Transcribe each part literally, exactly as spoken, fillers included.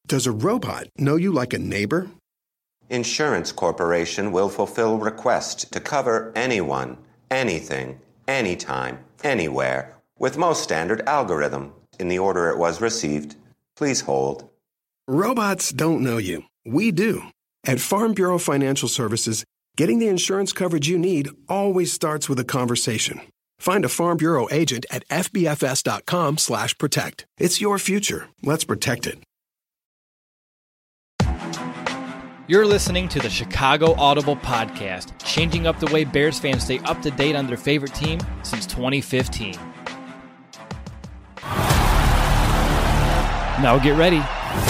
Does a robot know you like a neighbor? Insurance Corporation will fulfill requests to cover anyone, anything, anytime, anywhere, with most standard algorithm in the order it was received. Please hold. Robots don't know you. We do. At Farm Bureau Financial Services, getting the insurance coverage you need always starts with a conversation. Find a Farm Bureau agent at F B F S dot com slash protect. It's your future. Let's protect it. You're listening to the Chicago Audible Podcast, changing up the way Bears fans stay up to date on their favorite team since twenty fifteen. Now get ready,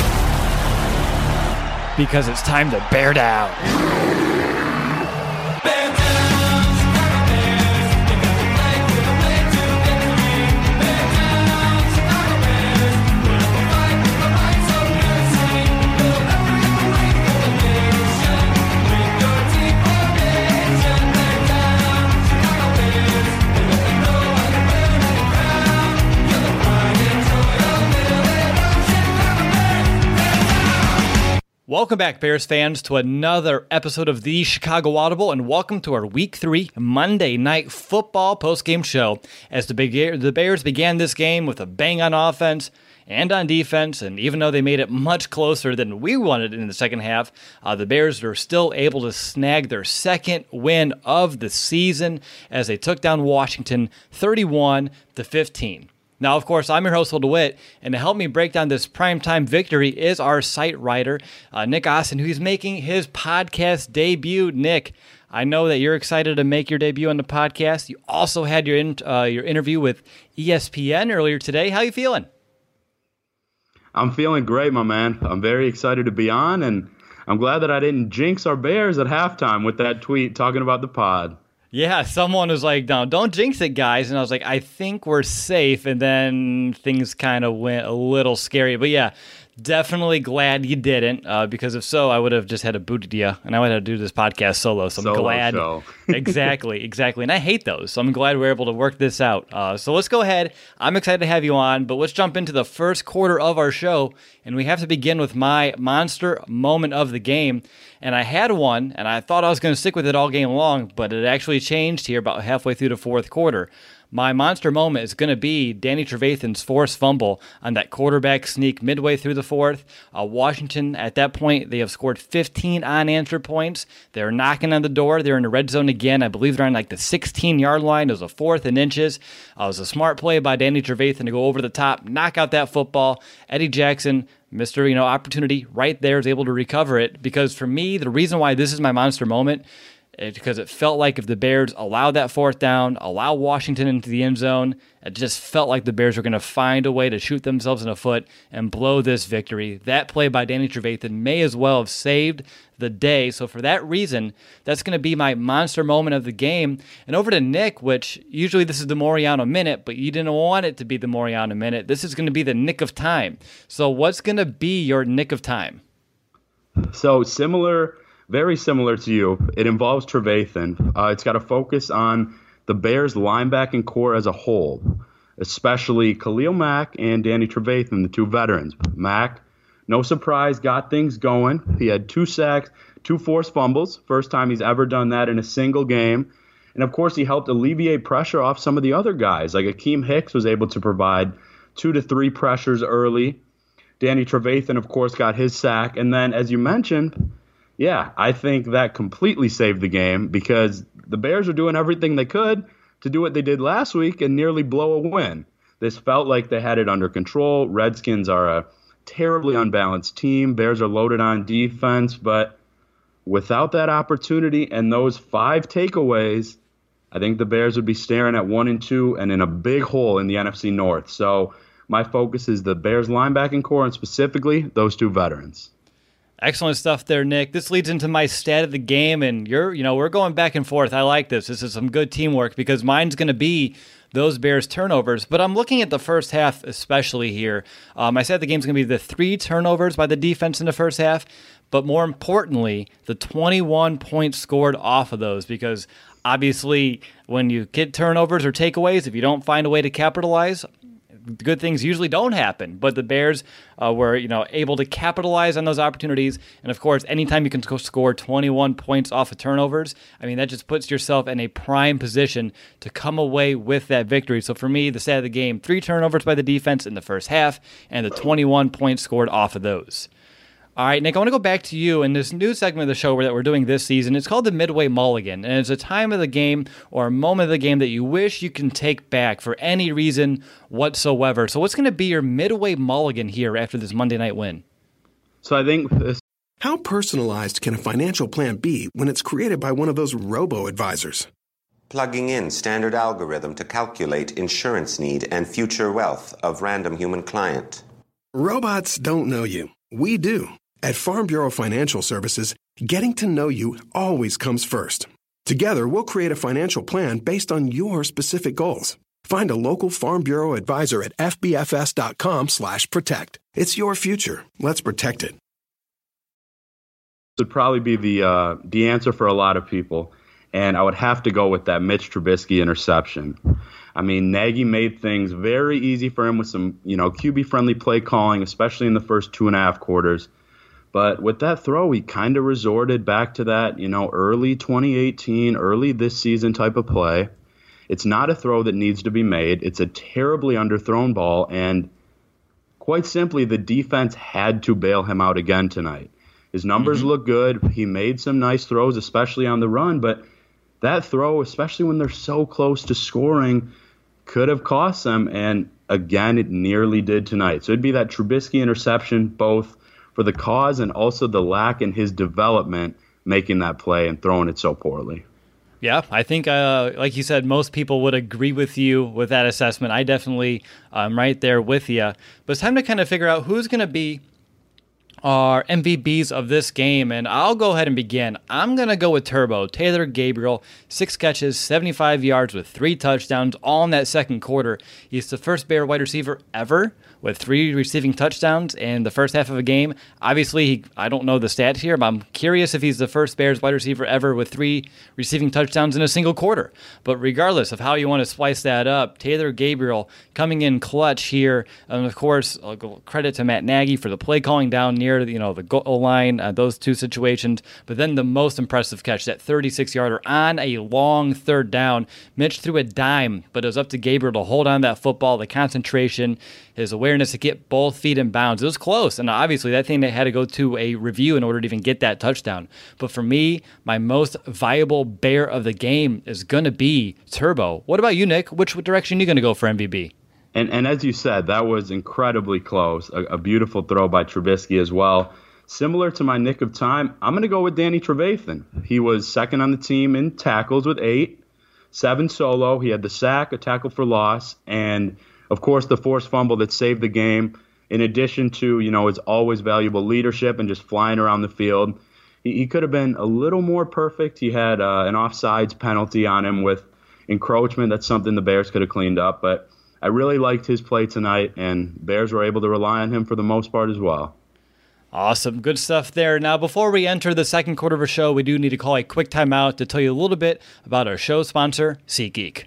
because it's time to bear down. Welcome back, Bears fans, to another episode of the Chicago Audible, and welcome to our Week three Monday Night Football postgame show. As the, Be- the Bears began this game with a bang on offense and on defense, and even though they made it much closer than we wanted in the second half, uh, the Bears were still able to snag their second win of the season as they took down Washington thirty-one to fifteen. Now, of course, I'm your host, Will DeWitt, and to help me break down this primetime victory is our site writer, uh, Nick Austin, who's making his podcast debut. Nick, I know that you're excited to make your debut on the podcast. You also had your in, uh, your interview with E S P N earlier today. How you feeling? I'm feeling great, my man. I'm very excited to be on, and I'm glad that I didn't jinx our Bears at halftime with that tweet talking about the pod. Yeah, someone was like, no, don't jinx it, guys. And I was like, I think we're safe. And then things kind of went a little scary. But yeah, definitely glad you didn't, uh, because if so, I would have just had to boot you, and I would have to do this podcast solo. So I'm solo glad. Show. exactly, exactly. And I hate those. So I'm glad we're able to work this out. Uh, so let's go ahead. I'm excited to have you on, but let's jump into the first quarter of our show. And we have to begin with my monster moment of the game. And I had one, and I thought I was going to stick with it all game long, but it actually changed here about halfway through the fourth quarter. My monster moment is going to be Danny Trevathan's forced fumble on that quarterback sneak midway through the fourth. Uh, Washington, at that point, they have scored fifteen unanswered points. They're knocking on the door. They're in the red zone again. I believe they're on like the sixteen-yard line. It was a fourth and inches. Uh, it was a smart play by Danny Trevathan to go over the top, knock out that football. Eddie Jackson, Mister You know, opportunity right there, is able to recover it. Because for me, the reason why this is my monster moment is because it felt like if the Bears allowed that fourth down, allow Washington into the end zone, it just felt like the Bears were going to find a way to shoot themselves in the foot and blow this victory. That play by Danny Trevathan may as well have saved the day. So for that reason, that's going to be my monster moment of the game. And over to Nick, which usually this is the Moriano Minute, but you didn't want it to be the Moriano Minute. This is going to be the Nick of Time. So what's going to be your Nick of Time? So similar, very similar to you. It involves Trevathan. Uh, it's got to focus on the Bears linebacking core as a whole, especially Khalil Mack and Danny Trevathan, the two veterans. Mack, no surprise, got things going. He had two sacks, two forced fumbles, first time he's ever done that in a single game. And, of course, he helped alleviate pressure off some of the other guys. Like Akeem Hicks was able to provide two to three pressures early. Danny Trevathan, of course, got his sack. And then, as you mentioned, yeah, I think that completely saved the game because the Bears are doing everything they could to do what they did last week and nearly blow a win. This felt like they had it under control. Redskins are a terribly unbalanced team. Bears are loaded on defense, but without that opportunity and those five takeaways, I think the Bears would be staring at one and two and in a big hole in the N F C North. So my focus is the Bears linebacking core and specifically those two veterans. Excellent stuff there, Nick. This leads into my stat of the game, and you're, you know, we're going back and forth. I like this. This is some good teamwork because mine's going to be those Bears turnovers. But I'm looking at the first half especially here. Um, I said the game's going to be the three turnovers by the defense in the first half, but more importantly, the twenty-one points scored off of those because obviously when you get turnovers or takeaways, if you don't find a way to capitalize, good things usually don't happen. But the Bears uh, were, you know, able to capitalize on those opportunities. And of course, anytime you can score twenty-one points off of turnovers, I mean, that just puts yourself in a prime position to come away with that victory. So for me, the stat of the game, three turnovers by the defense in the first half, and the twenty-one points scored off of those. All right, Nick, I want to go back to you in this new segment of the show that we're doing this season. It's called the Midway Mulligan, and it's a time of the game or a moment of the game that you wish you can take back for any reason whatsoever. So what's going to be your Midway Mulligan here after this Monday night win? So I think this. How personalized can a financial plan be when it's created by one of those robo-advisors? Plugging in standard algorithm to calculate insurance need and future wealth of random human client. Robots don't know you. We do. At Farm Bureau Financial Services, getting to know you always comes first. Together, we'll create a financial plan based on your specific goals. Find a local Farm Bureau advisor at fbfs.com slash protect. It's your future. Let's protect it. Would probably be the uh, the answer for a lot of people, and I would have to go with that Mitch Trubisky interception. I mean, Nagy made things very easy for him with some, you know, Q B-friendly play calling, especially in the first two and a half quarters. But with that throw, he kind of resorted back to that, you know, early twenty eighteen, early this season type of play. It's not a throw that needs to be made. It's a terribly underthrown ball, and quite simply, the defense had to bail him out again tonight. His numbers mm-hmm. look good. He made some nice throws, especially on the run, but that throw, especially when they're so close to scoring, could have cost them, and again, it nearly did tonight. So it'd be that Trubisky interception, both for the cause and also the lack in his development, making that play and throwing it so poorly. Yeah, I think, uh, like you said, most people would agree with you with that assessment. I definitely am right there with you. But it's time to kind of figure out who's going to be our M V Bs of this game, and I'll go ahead and begin. I'm going to go with Turbo, Taylor Gabriel, six catches, seventy-five yards with three touchdowns, all in that second quarter. He's the first Bear wide receiver ever with three receiving touchdowns in the first half of a game. Obviously, he, I don't know the stats here, but I'm curious if he's the first Bears wide receiver ever with three receiving touchdowns in a single quarter. But regardless of how you want to splice that up, Taylor Gabriel coming in clutch here. And of course, I'll go credit to Matt Nagy for the play calling down near you know the goal line, uh, those two situations. But then the most impressive catch, that thirty-six yarder on a long third down. Mitch threw a dime, but it was up to Gabriel to hold on that football, the concentration, his awareness to get both feet in bounds. It was close, and obviously that thing that had to go to a review in order to even get that touchdown. But for me, my most viable Bear of the game is going to be Turbo. What about you, Nick? Which direction are you going to go for M V B? And and as you said, that was incredibly close. A, a beautiful throw by Trubisky as well. Similar to my nick of time, I'm going to go with Danny Trevathan. He was second on the team in tackles with eight, seven solo. He had the sack, a tackle for loss, and of course, the forced fumble that saved the game, in addition to, you know, his always valuable leadership and just flying around the field. He, he could have been a little more perfect. He had uh, an offsides penalty on him with encroachment. That's something the Bears could have cleaned up. But I really liked his play tonight, and Bears were able to rely on him for the most part as well. Awesome. Good stuff there. Now, before we enter the second quarter of our show, we do need to call a quick timeout to tell you a little bit about our show sponsor, SeatGeek.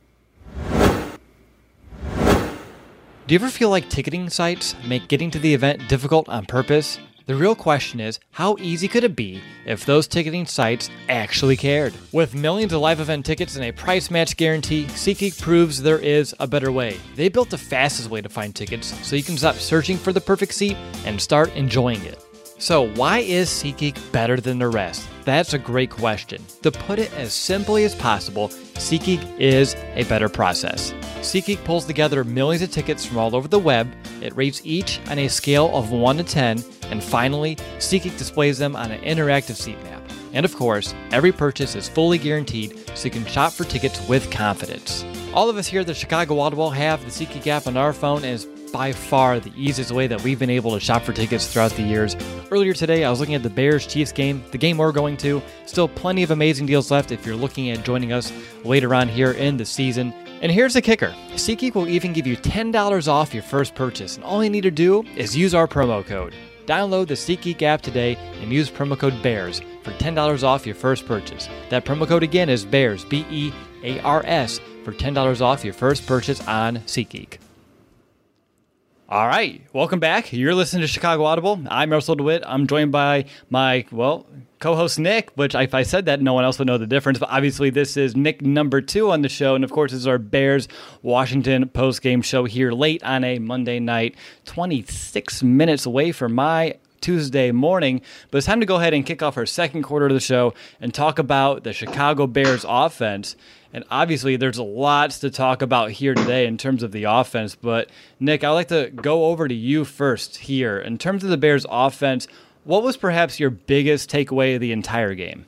Do you ever feel like ticketing sites make getting to the event difficult on purpose? The real question is, how easy could it be if those ticketing sites actually cared? With millions of live event tickets and a price match guarantee, SeatGeek proves there is a better way. They built the fastest way to find tickets so you can stop searching for the perfect seat and start enjoying it. So why is SeatGeek better than the rest? That's a great question. To put it as simply as possible, SeatGeek is a better process. SeatGeek pulls together millions of tickets from all over the web. It rates each on a scale of one to ten, and finally, SeatGeek displays them on an interactive seat map. And of course, every purchase is fully guaranteed, so you can shop for tickets with confidence. All of us here at the Chicago Audible have the SeatGeek app on our phone, and it's by far the easiest way that we've been able to shop for tickets throughout the years. Earlier today, I was looking at the Bears-Chiefs game, the game we're going to. Still plenty of amazing deals left if you're looking at joining us later on here in the season. And here's the kicker. SeatGeek will even give you ten dollars off your first purchase, and all you need to do is use our promo code. Download the SeatGeek app today and use promo code BEARS for ten dollars off your first purchase. That promo code again is BEARS, B E A R S, for ten dollars off your first purchase on SeatGeek. All right, welcome back. You're listening to Chicago Audible. I'm Russell DeWitt. I'm joined by my, well, co-host Nick, which if I said that, no one else would know the difference. But obviously, this is Nick number two on the show. And of course, this is our Bears-Washington post-game show here late on a Monday night, twenty-six minutes away from my Tuesday morning. But it's time to go ahead and kick off our second quarter of the show and talk about the Chicago Bears offense. And obviously, there's lots to talk about here today in terms of the offense. But, Nick, I'd like to go over to you first here. In terms of the Bears' offense, what was perhaps your biggest takeaway of the entire game?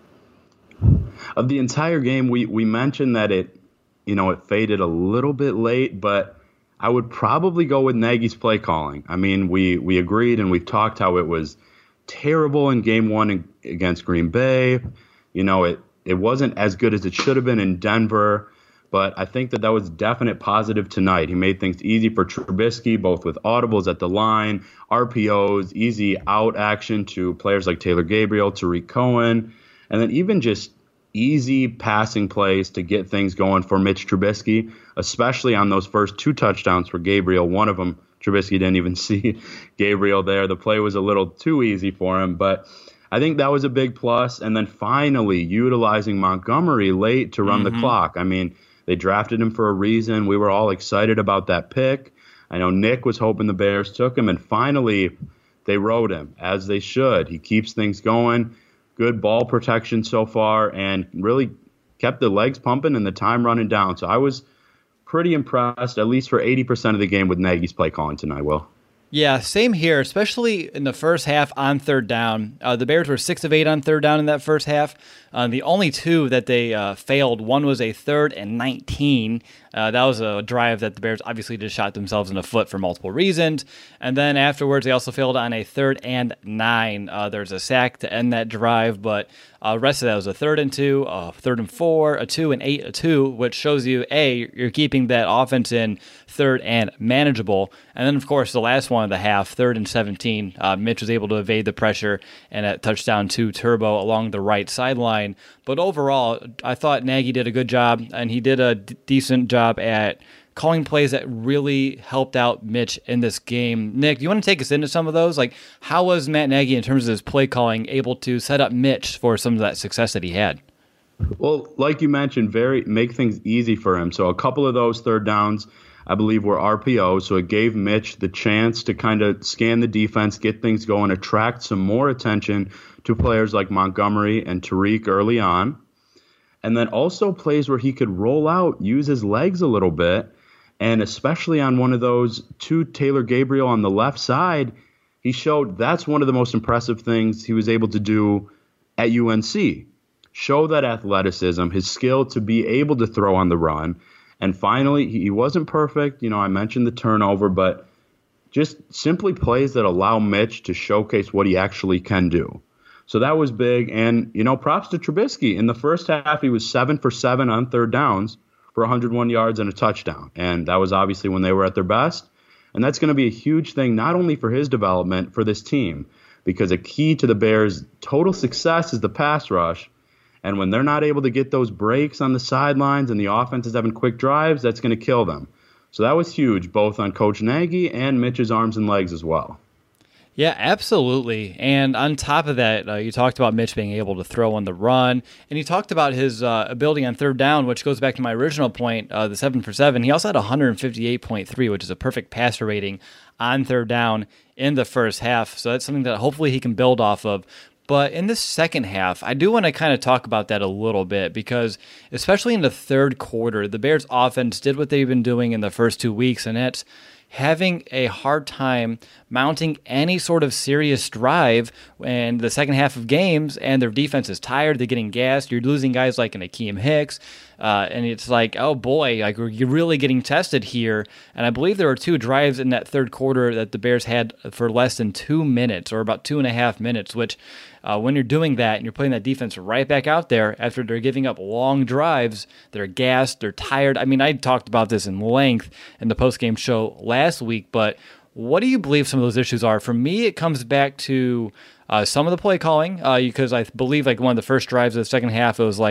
Of the entire game, we, we mentioned that it, you know, it faded a little bit late, but I would probably go with Nagy's play calling. I mean, we, we agreed and we've talked how it was terrible in game one against Green Bay. You know, it It wasn't as good as it should have been in Denver, but I think that that was definite positive tonight. He made things easy for Trubisky, both with audibles at the line, R P Os, easy out action to players like Taylor Gabriel, Tariq Cohen, and then even just easy passing plays to get things going for Mitch Trubisky, especially on those first two touchdowns for Gabriel. One of them, Trubisky didn't even see Gabriel there. The play was a little too easy for him, but I think that was a big plus. And then finally utilizing Montgomery late to run mm-hmm. the clock. I mean, they drafted him for a reason. We were all excited about that pick. I know Nick was hoping the Bears took him, and finally they rode him, as they should. He keeps things going. Good ball protection so far, and really kept the legs pumping and the time running down. So I was pretty impressed, at least for eighty percent of the game, with Nagy's play calling tonight, Will. Yeah, same here, especially in the first half on third down. Uh, the Bears were six of eight on third down in that first half. Uh, the only two that they uh, failed, one was a third and nineteen. Uh, that was a drive that the Bears obviously just shot themselves in the foot for multiple reasons. And then afterwards, they also failed on a third and nine. Uh, there's a sack to end that drive, but uh, the rest of that was a third and two, a third and four, a two and eight, a two, which shows you, A, you're keeping that offense in third and manageable. And then, of course, the last one of the half, third and seventeen, uh, Mitch was able to evade the pressure and a touchdown to Turbo along the right sideline. But overall, I thought Nagy did a good job, and he did a d- decent job at calling plays that really helped out Mitch in this game. Nick, do you want to take us into some of those? Like, how was Matt Nagy, in terms of his play calling, able to set up Mitch for some of that success that he had? Well, like you mentioned, very make things easy for him. So a couple of those third downs, I believe, were R P Os. So it gave Mitch the chance to kind of scan the defense, get things going, attract some more attention to players like Montgomery and Tariq early on. And then also plays where he could roll out, use his legs a little bit. And especially on one of those two, Taylor Gabriel on the left side, he showed that's one of the most impressive things he was able to do at U N C. Show that athleticism, his skill to be able to throw on the run. And finally, he wasn't perfect. You know, I mentioned the turnover, but just simply plays that allow Mitch to showcase what he actually can do. So that was big. And, you know, props to Trubisky. In the first half, he was seven for seven on third downs for one hundred one yards and a touchdown. And that was obviously when they were at their best. And that's going to be a huge thing, not only for his development, for this team, because a key to the Bears' total success is the pass rush. And when they're not able to get those breaks on the sidelines and the offense is having quick drives, that's going to kill them. So that was huge, both on Coach Nagy and Mitch's arms and legs as well. Yeah, absolutely. And on top of that, uh, you talked about Mitch being able to throw on the run, and you talked about his uh, ability on third down, which goes back to my original point, uh, the seven for seven. He also had one fifty-eight point three, which is a perfect passer rating on third down in the first half. So that's something that hopefully he can build off of. But in the second half, I do want to kind of talk about that a little bit, because especially in the third quarter, the Bears offense did what they've been doing in the first two weeks, and that's having a hard time mounting any sort of serious drive in the second half of games, and their defense is tired, they're getting gassed, you're losing guys like an Akeem Hicks, uh, and it's like, oh boy, like you're really getting tested here. And I believe there were two drives in that third quarter that the Bears had for less than two minutes, or about two and a half minutes, which uh, when you're doing that and you're putting that defense right back out there after they're giving up long drives, they're gassed, they're tired. I mean, I talked about this in length in the postgame show last week, but what do you believe some of those issues are? For me, it comes back to uh, some of the play calling, uh, because I believe like one of the first drives of the second half, it was like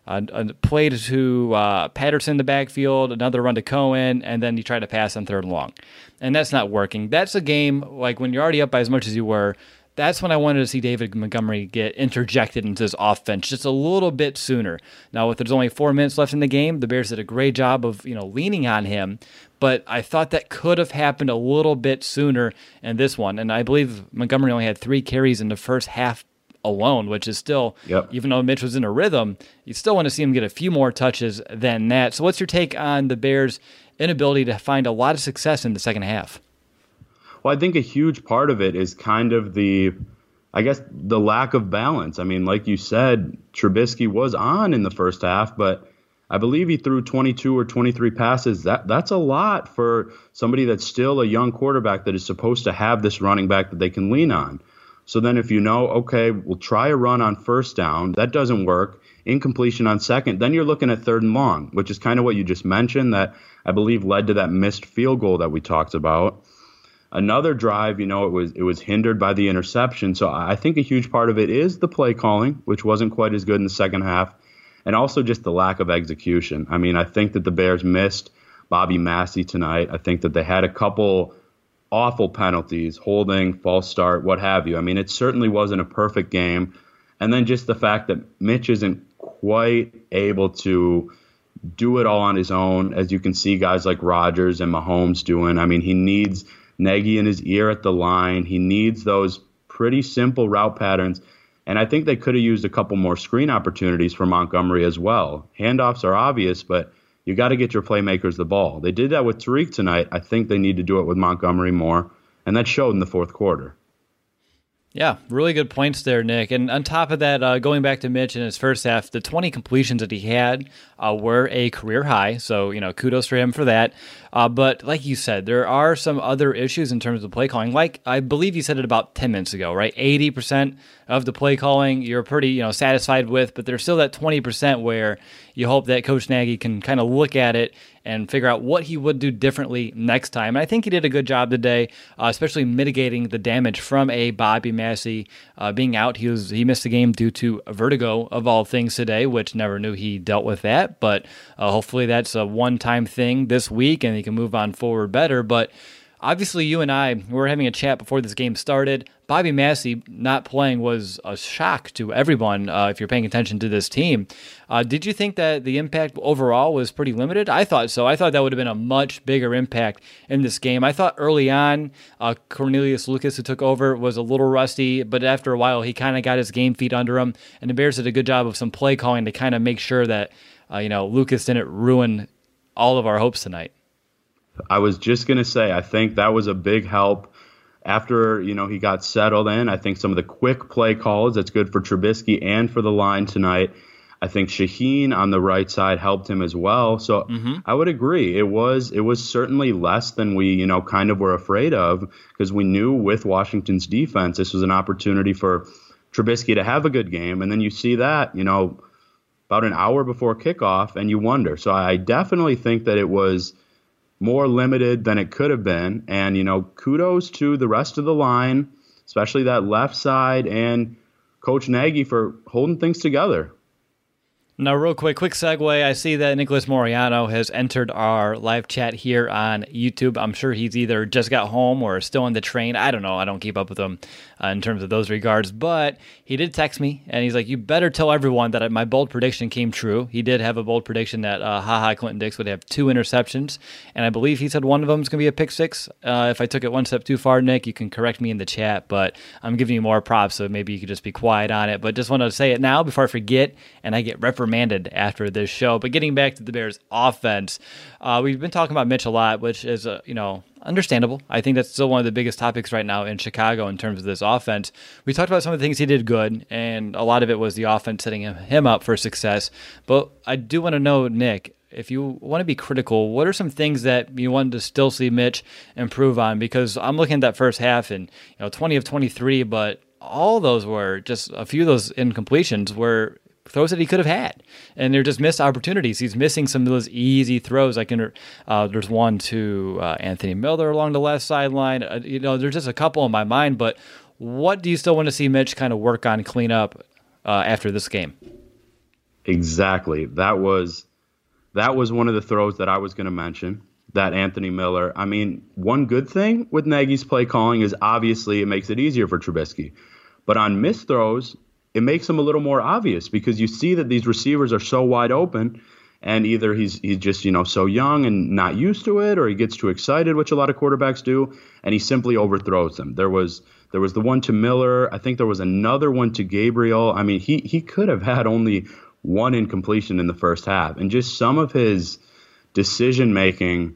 Uh, a play to uh, Patterson in the backfield, another run to Cohen, and then you try to pass on third and long. And that's not working. That's a game, like when you're already up by as much as you were, that's when I wanted to see David Montgomery get interjected into this offense just a little bit sooner. Now, if there's only four minutes left in the game, the Bears did a great job of, you know, leaning on him, but I thought that could have happened a little bit sooner in this one. And I believe Montgomery only had three carries in the first half alone, which is still, yep. even though Mitch was in a rhythm, you still want to see him get a few more touches than that. So what's your take on the Bears' inability to find a lot of success in the second half? Well, I think a huge part of it is kind of the, I guess, the lack of balance. I mean, like you said, Trubisky was on in the first half, but I believe he threw twenty-two or twenty-three passes. That That's a lot for somebody that's still a young quarterback that is supposed to have this running back that they can lean on. So then if you know, okay, we'll try a run on first down, that doesn't work, incompletion on second, then you're looking at third and long, which is kind of what you just mentioned that I believe led to that missed field goal that we talked about. Another drive, you know, it was it was hindered by the interception. So I think a huge part of it is the play calling, which wasn't quite as good in the second half, and also just the lack of execution. I mean, I think that the Bears missed Bobby Massey tonight. I think that they had a couple awful penalties, holding, false start, what have you. I mean, it certainly wasn't a perfect game. And then just the fact that Mitch isn't quite able to do it all on his own, as you can see guys like Rodgers and Mahomes doing. I mean, he needs Nagy in his ear at the line. He needs those pretty simple route patterns. And I think they could have used a couple more screen opportunities for Montgomery as well. Handoffs are obvious, but you got to get your playmakers the ball. They did that with Tariq tonight. I think they need to do it with Montgomery more, and that showed in the fourth quarter. Yeah, really good points there, Nick. And on top of that, uh, going back to Mitch in his first half, the twenty completions that he had uh, were a career high. So, you know, kudos for him for that. Uh, but like you said, there are some other issues in terms of play calling. Like I believe you said it about ten minutes ago, right? eighty percent of the play calling you're pretty, you know, satisfied with, but there's still that twenty percent where you hope that Coach Nagy can kind of look at it and figure out what he would do differently next time. And I think he did a good job today, uh, especially mitigating the damage from a Bobby Massey uh, being out. He was he missed the game due to vertigo, of all things, today, which never knew he dealt with that. But uh, hopefully that's a one-time thing this week, and he can move on forward better. But obviously, you and I we were having a chat before this game started. Bobby Massey not playing was a shock to everyone uh, if you're paying attention to this team. Uh, did you think that the impact overall was pretty limited? I thought so. I thought that would have been a much bigger impact in this game. I thought early on, uh, Cornelius Lucas, who took over, was a little rusty, but after a while, he kind of got his game feet under him, and the Bears did a good job of some play calling to kind of make sure that uh, you know Lucas didn't ruin all of our hopes tonight. I was just going to say, I think that was a big help. After, you know, he got settled in, I think some of the quick play calls, that's good for Trubisky and for the line tonight. I think Shaheen on the right side helped him as well. So mm-hmm. I would agree. It was it was certainly less than we, you know, kind of were afraid of, because we knew with Washington's defense, this was an opportunity for Trubisky to have a good game. And then you see that, you know, about an hour before kickoff, and you wonder. So I definitely think that it was more limited than it could have been. And, you know, kudos to the rest of the line, especially that left side, and Coach Nagy for holding things together. Now, real quick, quick segue. I see that Nicholas Moriano has entered our live chat here on YouTube. I'm sure he's either just got home or still on the train. I don't know. I don't keep up with him uh, in terms of those regards. But he did text me, and he's like, you better tell everyone that my bold prediction came true. He did have a bold prediction that uh, HaHa Clinton Dix would have two interceptions, and I believe he said one of them is going to be a pick six. Uh, if I took it one step too far, Nick, you can correct me in the chat, but I'm giving you more props, so maybe you could just be quiet on it. But just wanted to say it now before I forget, and I get reprimanded after this show. But getting back to the Bears offense, uh, we've been talking about Mitch a lot, which is, uh, you know, understandable. I think that's still one of the biggest topics right now in Chicago in terms of this offense. We talked about some of the things he did good, and a lot of it was the offense setting him, him up for success. But I do want to know, Nick, if you want to be critical, what are some things that you wanted to still see Mitch improve on? Because I'm looking at that first half, and you know, twenty of twenty-three, but all those were just a few of those incompletions were throws that he could have had, and they're just missed opportunities. He's missing some of those easy throws. I can, uh, there's one to uh, Anthony Miller along the left sideline. Uh, you know, there's just a couple in my mind. But what do you still want to see Mitch kind of work on, clean up uh, after this game? Exactly. That was that was one of the throws that I was going to mention. That Anthony Miller. I mean, one good thing with Nagy's play calling is obviously it makes it easier for Trubisky. But on missed throws, it makes them a little more obvious because you see that these receivers are so wide open, and either he's he's just, you know, so young and not used to it, or he gets too excited, which a lot of quarterbacks do, and he simply overthrows them. There was there was the one to Miller. I think there was another one to Gabriel. I mean, he he could have had only one incompletion in the first half, and just some of his decision making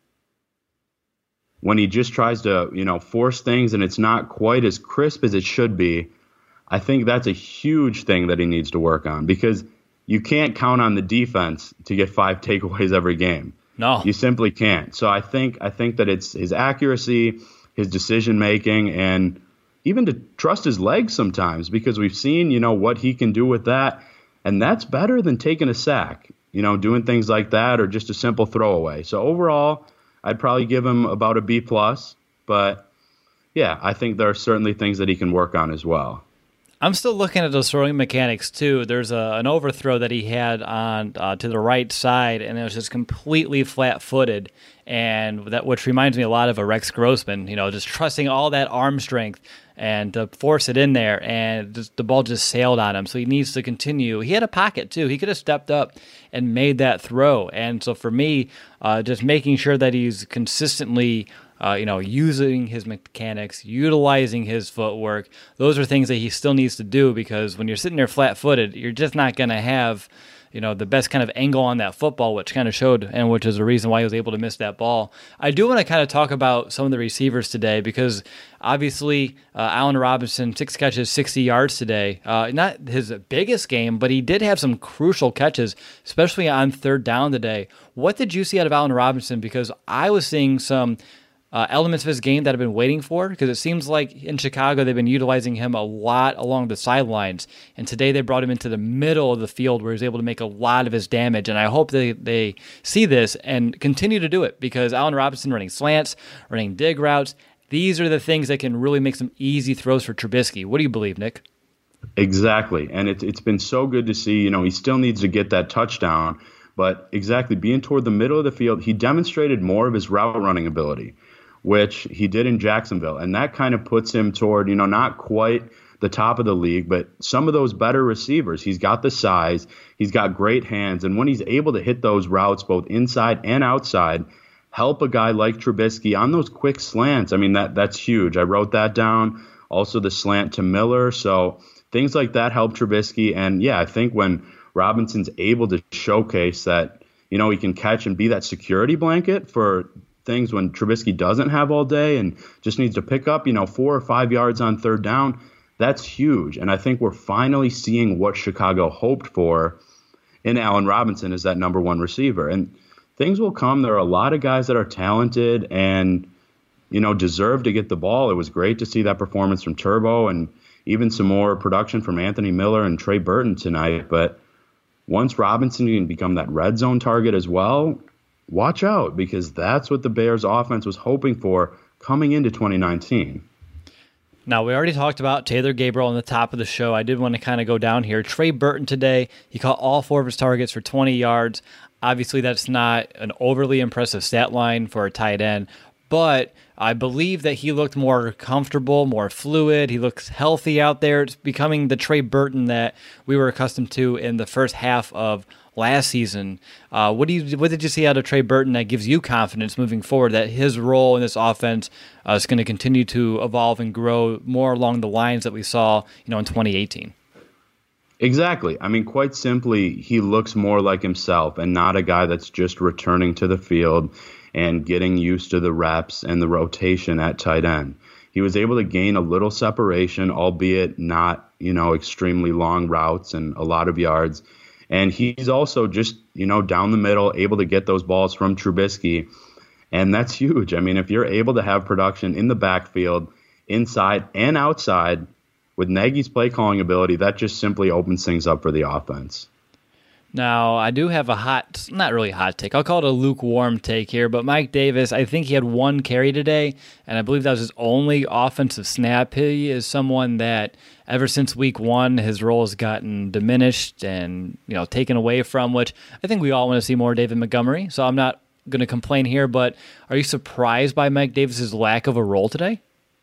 when he just tries to, you know, force things and it's not quite as crisp as it should be. I think that's a huge thing that he needs to work on, because you can't count on the defense to get five takeaways every game. No, you simply can't. So I think I think that it's his accuracy, his decision making, and even to trust his legs sometimes, because we've seen, you know, what he can do with that, and that's better than taking a sack, you know, doing things like that, or just a simple throwaway. So overall, I'd probably give him about a B plus, but yeah, I think there are certainly things that he can work on as well. I'm still looking at those throwing mechanics too. There's a, an overthrow that he had on uh, to the right side, and it was just completely flat-footed, and that which reminds me a lot of a Rex Grossman. You know, just trusting all that arm strength and to force it in there, and just, the ball just sailed on him. So he needs to continue. He had a pocket too. He could have stepped up and made that throw. And so for me, uh, just making sure that he's consistently Uh, you know, using his mechanics, utilizing his footwork. Those are things that he still needs to do, because when you're sitting there flat-footed, you're just not going to have, you know, the best kind of angle on that football, which kind of showed, and which is the reason why he was able to miss that ball. I do want to kind of talk about some of the receivers today, because obviously uh, Allen Robinson, six catches, sixty yards today. Uh, not his biggest game, but he did have some crucial catches, especially on third down today. What did you see out of Allen Robinson? Because I was seeing some Uh, elements of his game that I've been waiting for, because it seems like in Chicago they've been utilizing him a lot along the sidelines, and today they brought him into the middle of the field where he's able to make a lot of his damage, and I hope they, they see this and continue to do it, because Allen Robinson running slants, running dig routes, these are the things that can really make some easy throws for Trubisky. What do you believe, Nick? Exactly, and it, it's been so good to see. You know, he still needs to get that touchdown, but exactly, being toward the middle of the field, he demonstrated more of his route running ability, which he did in Jacksonville. And that kind of puts him toward, you know, not quite the top of the league, but some of those better receivers. He's got the size, he's got great hands, and when he's able to hit those routes both inside and outside, help a guy like Trubisky on those quick slants, I mean, that that's huge. I wrote that down. Also the slant to Miller. So things like that help Trubisky. And yeah, I think when Robinson's able to showcase that, you know, he can catch and be that security blanket for things when Trubisky doesn't have all day and just needs to pick up, you know, four or five yards on third down, that's huge. And I think we're finally seeing what Chicago hoped for in Allen Robinson as that number one receiver. And things will come. There are a lot of guys that are talented and, you know, deserve to get the ball. It was great to see that performance from Turbo and even some more production from Anthony Miller and Trey Burton tonight. But once Robinson can become that red zone target as well, watch out, because that's what the Bears offense was hoping for coming into twenty nineteen. Now, we already talked about Taylor Gabriel on the top of the show. I did want to kind of go down here. Trey Burton today, he caught all four of his targets for twenty yards. Obviously, that's not an overly impressive stat line for a tight end, but I believe that he looked more comfortable, more fluid. He looks healthy out there. It's becoming the Trey Burton that we were accustomed to in the first half of last season. Uh, what do you what did you see out of Trey Burton that gives you confidence moving forward that his role in this offense uh, is going to continue to evolve and grow more along the lines that we saw, you know, in twenty eighteen? Exactly. I mean, quite simply, he looks more like himself and not a guy that's just returning to the field and getting used to the reps and the rotation at tight end. He was able to gain a little separation, albeit not, you know, extremely long routes and a lot of yards. And he's also just, you know, down the middle, able to get those balls from Trubisky. And that's huge. I mean, if you're able to have production in the backfield, inside and outside, with Nagy's play calling ability, that just simply opens things up for the offense. Now, I do have a hot, not really hot take. I'll call it a lukewarm take here, but Mike Davis, I think he had one carry today, and I believe that was his only offensive snap. He is someone that ever since week one, his role has gotten diminished and, you know, taken away from, which I think we all want to see more David Montgomery, so I'm not going to complain here, but are you surprised by Mike Davis's lack of a role today?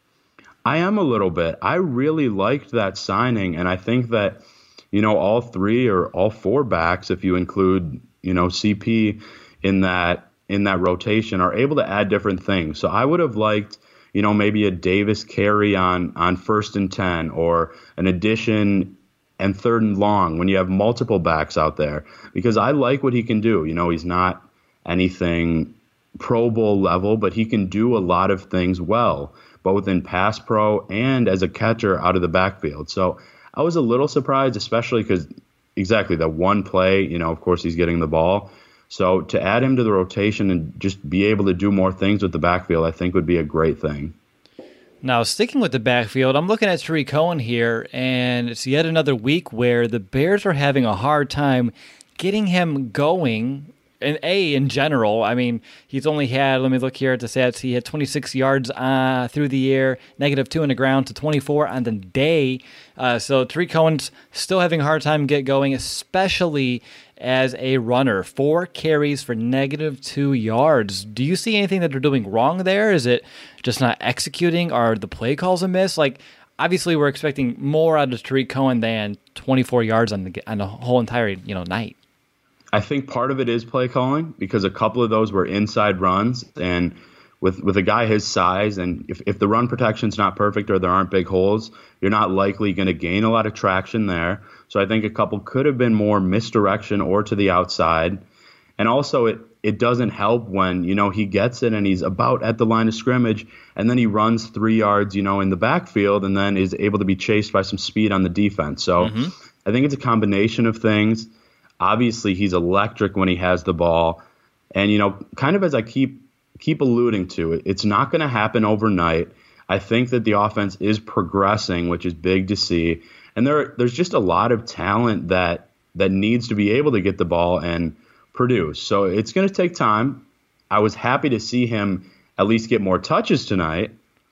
I am a little bit. I really liked that signing, and I think that, you know, all three or all four backs, if you include, you know, C P in that in that rotation, are able to add different things. So I would have liked, you know, maybe a Davis carry on on first and ten, or an addition and third and long when you have multiple backs out there, because I like what he can do. You know, he's not anything Pro Bowl level, but he can do a lot of things well, both in pass pro and as a catcher out of the backfield. So I was a little surprised, especially because exactly that one play, you know, of course he's getting the ball. So to add him to the rotation and just be able to do more things with the backfield, I think would be a great thing. Now, sticking with the backfield, I'm looking at Tarik Cohen here, and it's yet another week where the Bears are having a hard time getting him going. And A, in general, I mean, he's only had, let me look here at the stats, he had twenty-six yards uh, through the air, negative two on the ground to twenty-four on the day. Uh, so Tarik Cohen's still having a hard time get going, especially as a runner. Four carries for negative two yards. Do you see anything that they're doing wrong there? Is it just not executing? Are the play calls amiss? Like, obviously, we're expecting more out of Tarik Cohen than twenty-four yards on the on the whole entire you know night. I think part of it is play calling, because a couple of those were inside runs, and with with a guy his size, and if, if the run protection's not perfect or there aren't big holes, you're not likely going to gain a lot of traction there. So I think a couple could have been more misdirection or to the outside. And also it it doesn't help when, you know, he gets it and he's about at the line of scrimmage, and then he runs three yards, you know, in the backfield, and then is able to be chased by some speed on the defense. So mm-hmm. I think it's a combination of things. Obviously, he's electric when he has the ball. And, you know, kind of as I keep keep alluding to, it, it's not going to happen overnight. I think that the offense is progressing, which is big to see. And there there's just a lot of talent that that needs to be able to get the ball and produce. So it's going to take time. I was happy to see him at least get more touches tonight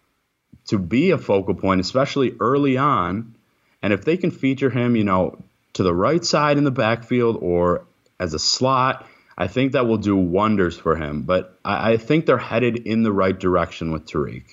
to be a focal point, especially early on. And if they can feature him, you know, to the right side in the backfield or as a slot, I think that will do wonders for him. But I, I think they're headed in the right direction with Tarik.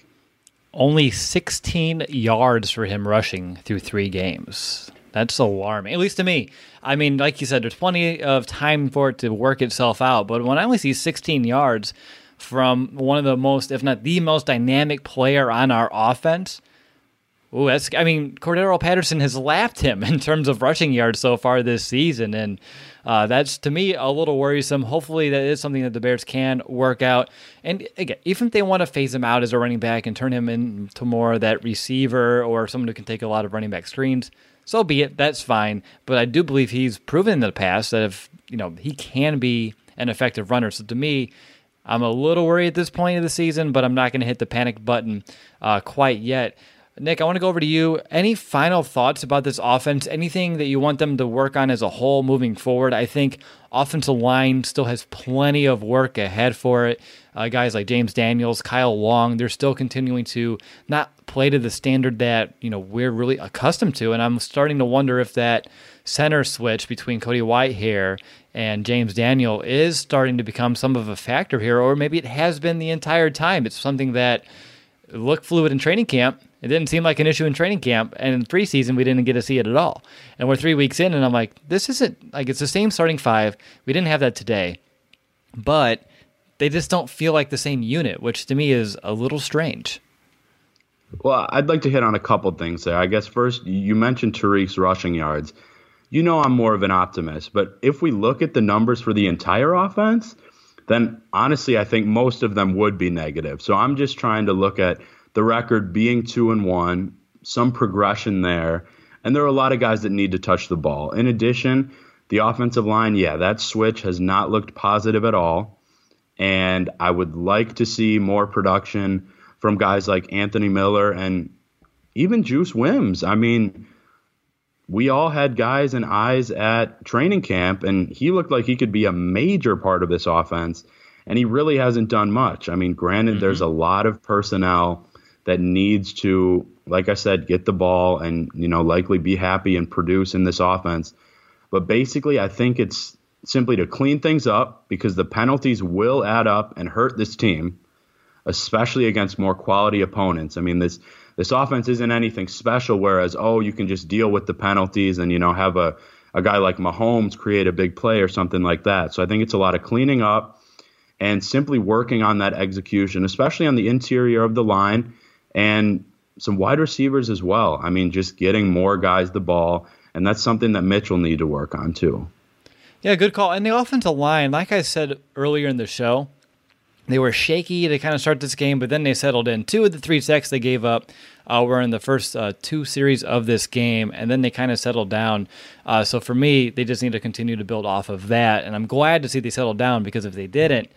Only sixteen yards for him rushing through three games. That's alarming, at least to me. I mean, like you said, there's plenty of time for it to work itself out. But when I only see sixteen yards from one of the most, if not the most dynamic player on our offense, ooh, that's, I mean, Cordero Patterson has lapped him in terms of rushing yards so far this season, and uh, that's, to me, a little worrisome. Hopefully that is something that the Bears can work out. And, again, even if they want to phase him out as a running back and turn him into more of that receiver or someone who can take a lot of running back screens, so be it. That's fine. But I do believe he's proven in the past that if, you know, he can be an effective runner. So, to me, I'm a little worried at this point of the season, but I'm not going to hit the panic button uh, quite yet. Nick, I want to go over to you. Any final thoughts about this offense? Anything that you want them to work on as a whole moving forward? I think offensive line still has plenty of work ahead for it. Uh, guys like James Daniels, Kyle Long, they're still continuing to not play to the standard that, you know, we're really accustomed to. And I'm starting to wonder if that center switch between Cody Whitehair and James Daniel is starting to become some of a factor here, or maybe it has been the entire time. It's something that looked fluid in training camp. It didn't seem like an issue in training camp, and in preseason, we didn't get to see it at all. And we're three weeks in, and I'm like, this isn't, like, it's the same starting five. We didn't have that today, but they just don't feel like the same unit, which to me is a little strange. Well, I'd like to hit on a couple things there. I guess first, you mentioned Tarik's rushing yards. You know I'm more of an optimist, but if we look at the numbers for the entire offense, then honestly, I think most of them would be negative. So I'm just trying to look at the record being two and one, some progression there, and there are a lot of guys that need to touch the ball. In addition, the offensive line, yeah, that switch has not looked positive at all, and I would like to see more production from guys like Anthony Miller and even Juice Wims. I mean, we all had guys and eyes at training camp, and he looked like he could be a major part of this offense, and he really hasn't done much. I mean, granted, mm-hmm. there's a lot of personnel that needs to, like I said, get the ball and, you know, likely be happy and produce in this offense. But basically, I think it's simply to clean things up, because the penalties will add up and hurt this team, especially against more quality opponents. I mean, this this offense isn't anything special, whereas, oh, you can just deal with the penalties and, you know, have a, a guy like Mahomes create a big play or something like that. So I think it's a lot of cleaning up and simply working on that execution, especially on the interior of the line and some wide receivers as well. I mean, just getting more guys the ball, and that's something that Mitch will need to work on too. Yeah, good call. And the offensive line, like I said earlier in the show, they were shaky to kind of start this game, but then they settled in. Two of the three sacks they gave up uh, were in the first uh, two series of this game, and then they kind of settled down. Uh, so for me, they just need to continue to build off of that, and I'm glad to see they settled down, because if they didn't,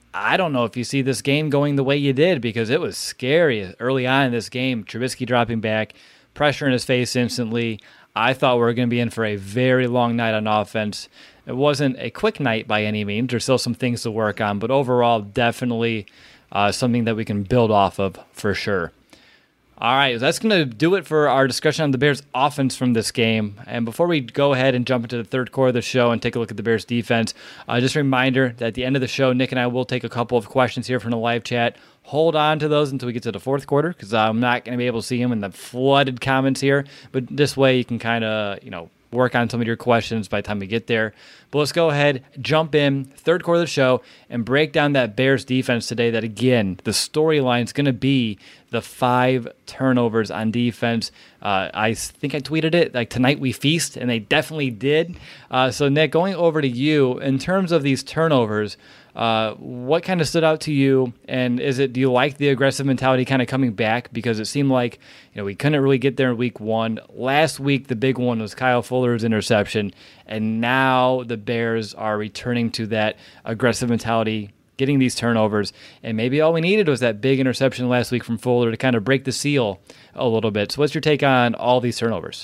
I don't know if you see this game going the way you did, because it was scary early on in this game. Trubisky dropping back, pressure in his face instantly. I thought we were going to be in for a very long night on offense. It wasn't a quick night by any means. There's still some things to work on, but overall, definitely uh, something that we can build off of for sure. All right, that's going to do it for our discussion on the Bears' offense from this game. And before we go ahead and jump into the third quarter of the show and take a look at the Bears' defense, uh, just a reminder that at the end of the show, Nick and I will take a couple of questions here from the live chat. Hold on to those until we get to the fourth quarter, because I'm not going to be able to see them in the flooded comments here. But this way you can kind of, you know, work on some of your questions by the time we get there. But let's go ahead, jump in, third quarter of the show, and break down that Bears defense today. That, again, the storyline is going to be the five turnovers on defense. Uh, I think I tweeted it, like, tonight we feast, and they definitely did. Uh, so, Nick, going over to you, in terms of these turnovers, Uh, what kind of stood out to you, and is it, do you like the aggressive mentality kind of coming back? Because it seemed like, you know, we couldn't really get there in week one. Last week, the big one was Kyle Fuller's interception, and now the Bears are returning to that aggressive mentality, getting these turnovers, and maybe all we needed was that big interception last week from Fuller to kind of break the seal a little bit. So what's your take on all these turnovers?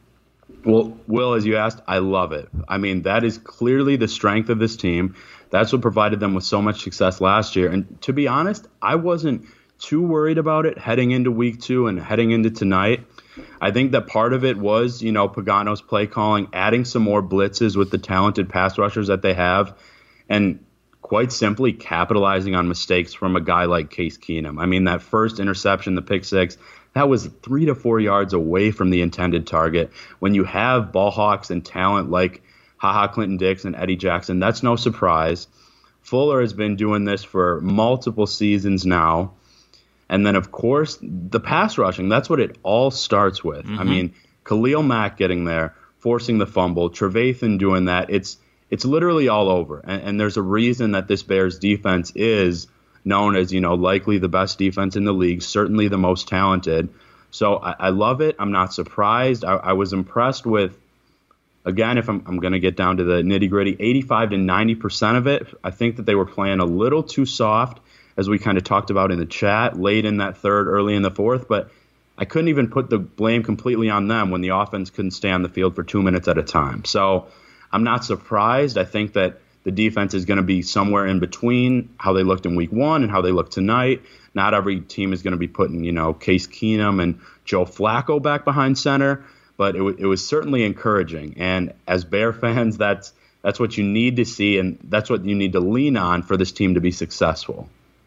Well, Will, as you asked, I love it. I mean, that is clearly the strength of this team. That's what provided them with so much success last year. And to be honest, I wasn't too worried about it heading into week two and heading into tonight. I think that part of it was, you know, Pagano's play calling, adding some more blitzes with the talented pass rushers that they have, and quite simply capitalizing on mistakes from a guy like Case Keenum. I mean, that first interception, the pick six, that was three to four yards away from the intended target. When you have ball hawks and talent like HaHa Clinton-Dix and Eddie Jackson, that's no surprise. Fuller has been doing this for multiple seasons now. And then, of course, the pass rushing, that's what it all starts with. Mm-hmm. I mean, Khalil Mack getting there, forcing the fumble, Trevathan doing that. It's it's literally all over. And, and there's a reason that this Bears defense is known as, you know, likely the best defense in the league, certainly the most talented. So I, I love it. I'm not surprised. I, I was impressed with, again, if I'm, I'm going to get down to the nitty-gritty, eighty-five to ninety percent of it. I think that they were playing a little too soft, as we kind of talked about in the chat, late in that third, early in the fourth. But I couldn't even put the blame completely on them when the offense couldn't stay on the field for two minutes at a time. So I'm not surprised. I think that the defense is going to be somewhere in between how they looked in week one and how they look tonight. Not every team is going to be putting, you know, Case Keenum and Joe Flacco back behind center. But it, w- it was certainly encouraging. And as Bear fans, that's that's what you need to see, and that's what you need to lean on for this team to be successful.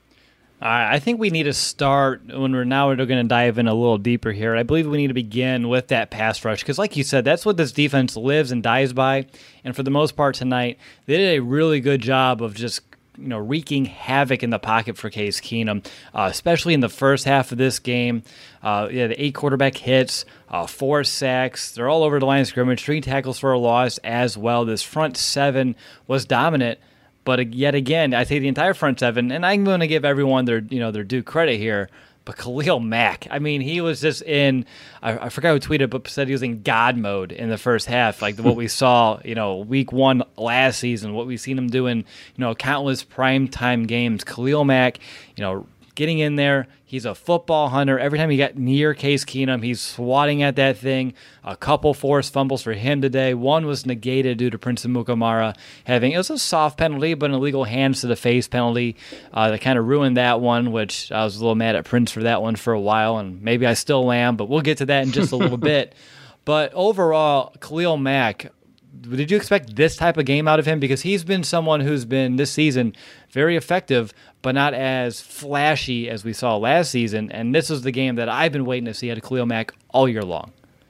I think we need to start, when we're now we're going to dive in a little deeper here. I believe we need to begin with that pass rush, because like you said, that's what this defense lives and dies by. And for the most part tonight, they did a really good job of just, you know, wreaking havoc in the pocket for Case Keenum, uh, especially in the first half of this game. Uh, yeah, the eight quarterback hits, uh, four sacks. They're all over the line of scrimmage, three tackles for a loss as well. This front seven was dominant. But yet again, I say the entire front seven, and I'm going to give everyone their, you know, their due credit here. But Khalil Mack, I mean, he was just in, I, I forgot who tweeted, but said he was in God mode in the first half, like what we saw, you know, week one last season, what we've seen him doing, you know, countless primetime games. Khalil Mack, you know, getting in there. He's a football hunter. Every time he got near Case Keenum, he's swatting at that thing. A couple forced fumbles for him today. One was negated due to Prince Amukamara having, it was a soft penalty, but an illegal hands to the face penalty uh, that kind of ruined that one, which I was a little mad at Prince for that one for a while, and maybe I still am, but we'll get to that in just a little bit. But overall, Khalil Mack, did you expect this type of game out of him? Because he's been someone who's been, this season, very effective, but not as flashy as we saw last season. And this is the game that I've been waiting to see out of Khalil Mack all year long.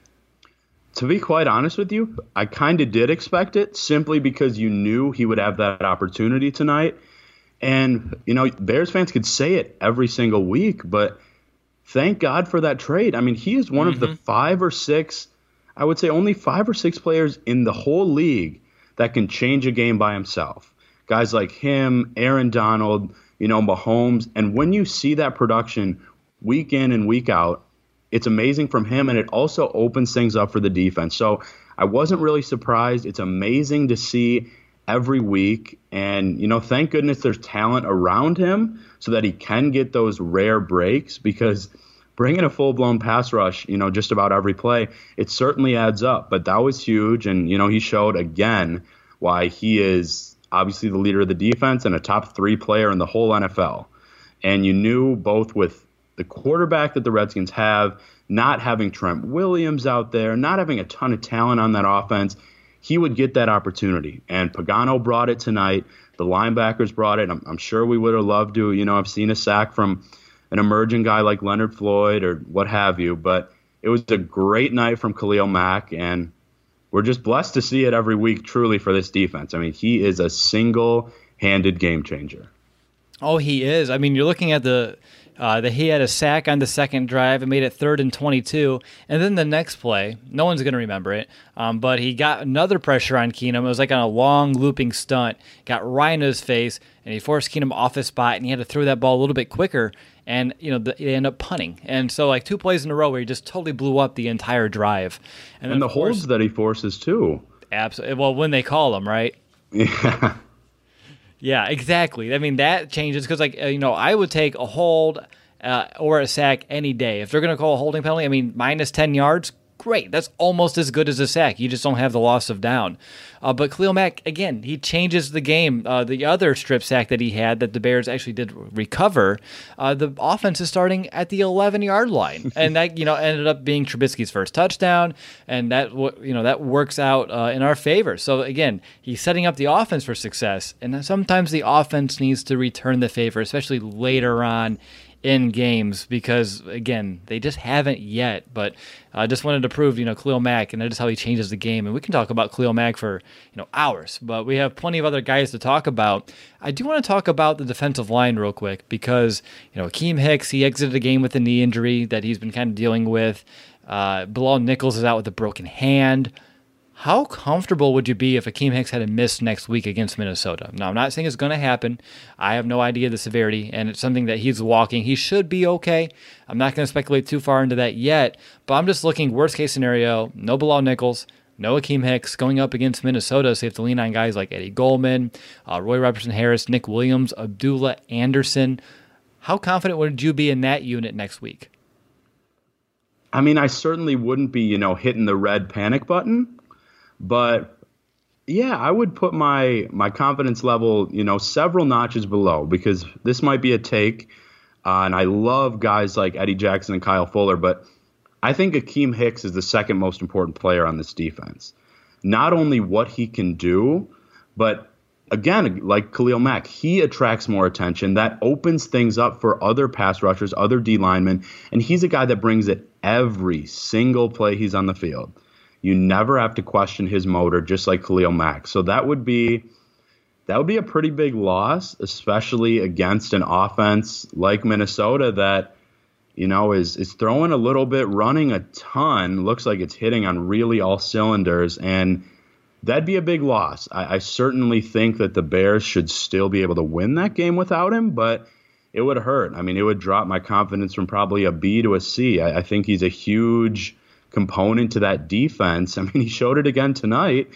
To be quite honest with you, I kind of did expect it simply because you knew he would have that opportunity tonight. And, you know, Bears fans could say it every single week, but thank God for that trade. I mean, he is one mm-hmm. of the five or six, I would say only five or six players in the whole league that can change a game by himself. Guys like him, Aaron Donald, you know, Mahomes. And when you see that production week in and week out, it's amazing from him, and it also opens things up for the defense. So I wasn't really surprised. It's amazing to see every week. And, you know, thank goodness there's talent around him so that he can get those rare breaks, because bringing a full-blown pass rush, you know, just about every play, it certainly adds up. But that was huge, and, you know, he showed again why he is obviously the leader of the defense and a top three player in the whole N F L. And you knew both with the quarterback that the Redskins have, not having Trent Williams out there, not having a ton of talent on that offense, he would get that opportunity. And Pagano brought it tonight. The linebackers brought it. I'm, I'm sure we would have loved to, you know, I've seen a sack from an emerging guy like Leonard Floyd or what have you, but it was a great night from Khalil Mack, and we're just blessed to see it every week, truly, for this defense. I mean, he is a single-handed game changer. Oh, he is. I mean, you're looking at the uh, the he had a sack on the second drive and made it third and twenty-two, and then the next play, no one's going to remember it, um, but he got another pressure on Keenum. It was like on a long looping stunt, got right into his face, and he forced Keenum off his spot, and he had to throw that ball a little bit quicker. And, you know, the, they end up punting. And so, like, two plays in a row where he just totally blew up the entire drive. And, and the course, holds that he forces, too. Absolutely. Well, when they call them, right? Yeah. Yeah, exactly. I mean, that changes because, like, uh, you know, I would take a hold uh, or a sack any day. If they're going to call a holding penalty, I mean, minus ten yards, great. That's almost as good as a sack. You just don't have the loss of down. Uh, but Khalil Mack, again, he changes the game. Uh, the other strip sack that he had that the Bears actually did recover, uh, the offense is starting at the eleven-yard line. And that, you know, ended up being Trubisky's first touchdown, and that, you know, that works out uh, in our favor. So, again, he's setting up the offense for success, and sometimes the offense needs to return the favor, especially later on in games, because, again, they just haven't yet. But I just wanted to prove, you know, Khalil Mack, and that is how he changes the game. And we can talk about Khalil Mack for, you know, hours, but we have plenty of other guys to talk about. I do want to talk about the defensive line real quick, because, you know, Akeem Hicks, he exited the game with a knee injury that he's been kind of dealing with. Uh, Bilal Nichols is out with a broken hand. How comfortable would you be if Akeem Hicks had a miss next week against Minnesota? Now, I'm not saying it's going to happen. I have no idea the severity, and it's something that he's walking. He should be okay. I'm not going to speculate too far into that yet, but I'm just looking worst-case scenario, no Bilal Nichols, no Akeem Hicks going up against Minnesota, so you have to lean on guys like Eddie Goldman, uh, Roy Robertson-Harris, Nick Williams, Abdullah Anderson. How confident would you be in that unit next week? I mean, I certainly wouldn't be, you know, hitting the red panic button. But, yeah, I would put my my confidence level, you know, several notches below, because this might be a take. Uh, and I love guys like Eddie Jackson and Kyle Fuller, but I think Akeem Hicks is the second most important player on this defense. Not only what he can do, but, again, like Khalil Mack, he attracts more attention. That opens things up for other pass rushers, other D linemen, and he's a guy that brings it every single play he's on the field. You never have to question his motor, just like Khalil Mack. So that would be that would be a pretty big loss, especially against an offense like Minnesota that, you know, is is throwing a little bit, running a ton. Looks like it's hitting on really all cylinders, and that'd be a big loss. I, I certainly think that the Bears should still be able to win that game without him, but it would hurt. I mean, it would drop my confidence from probably a B to a C. I, I think he's a huge component to that defense. I mean, he showed it again tonight.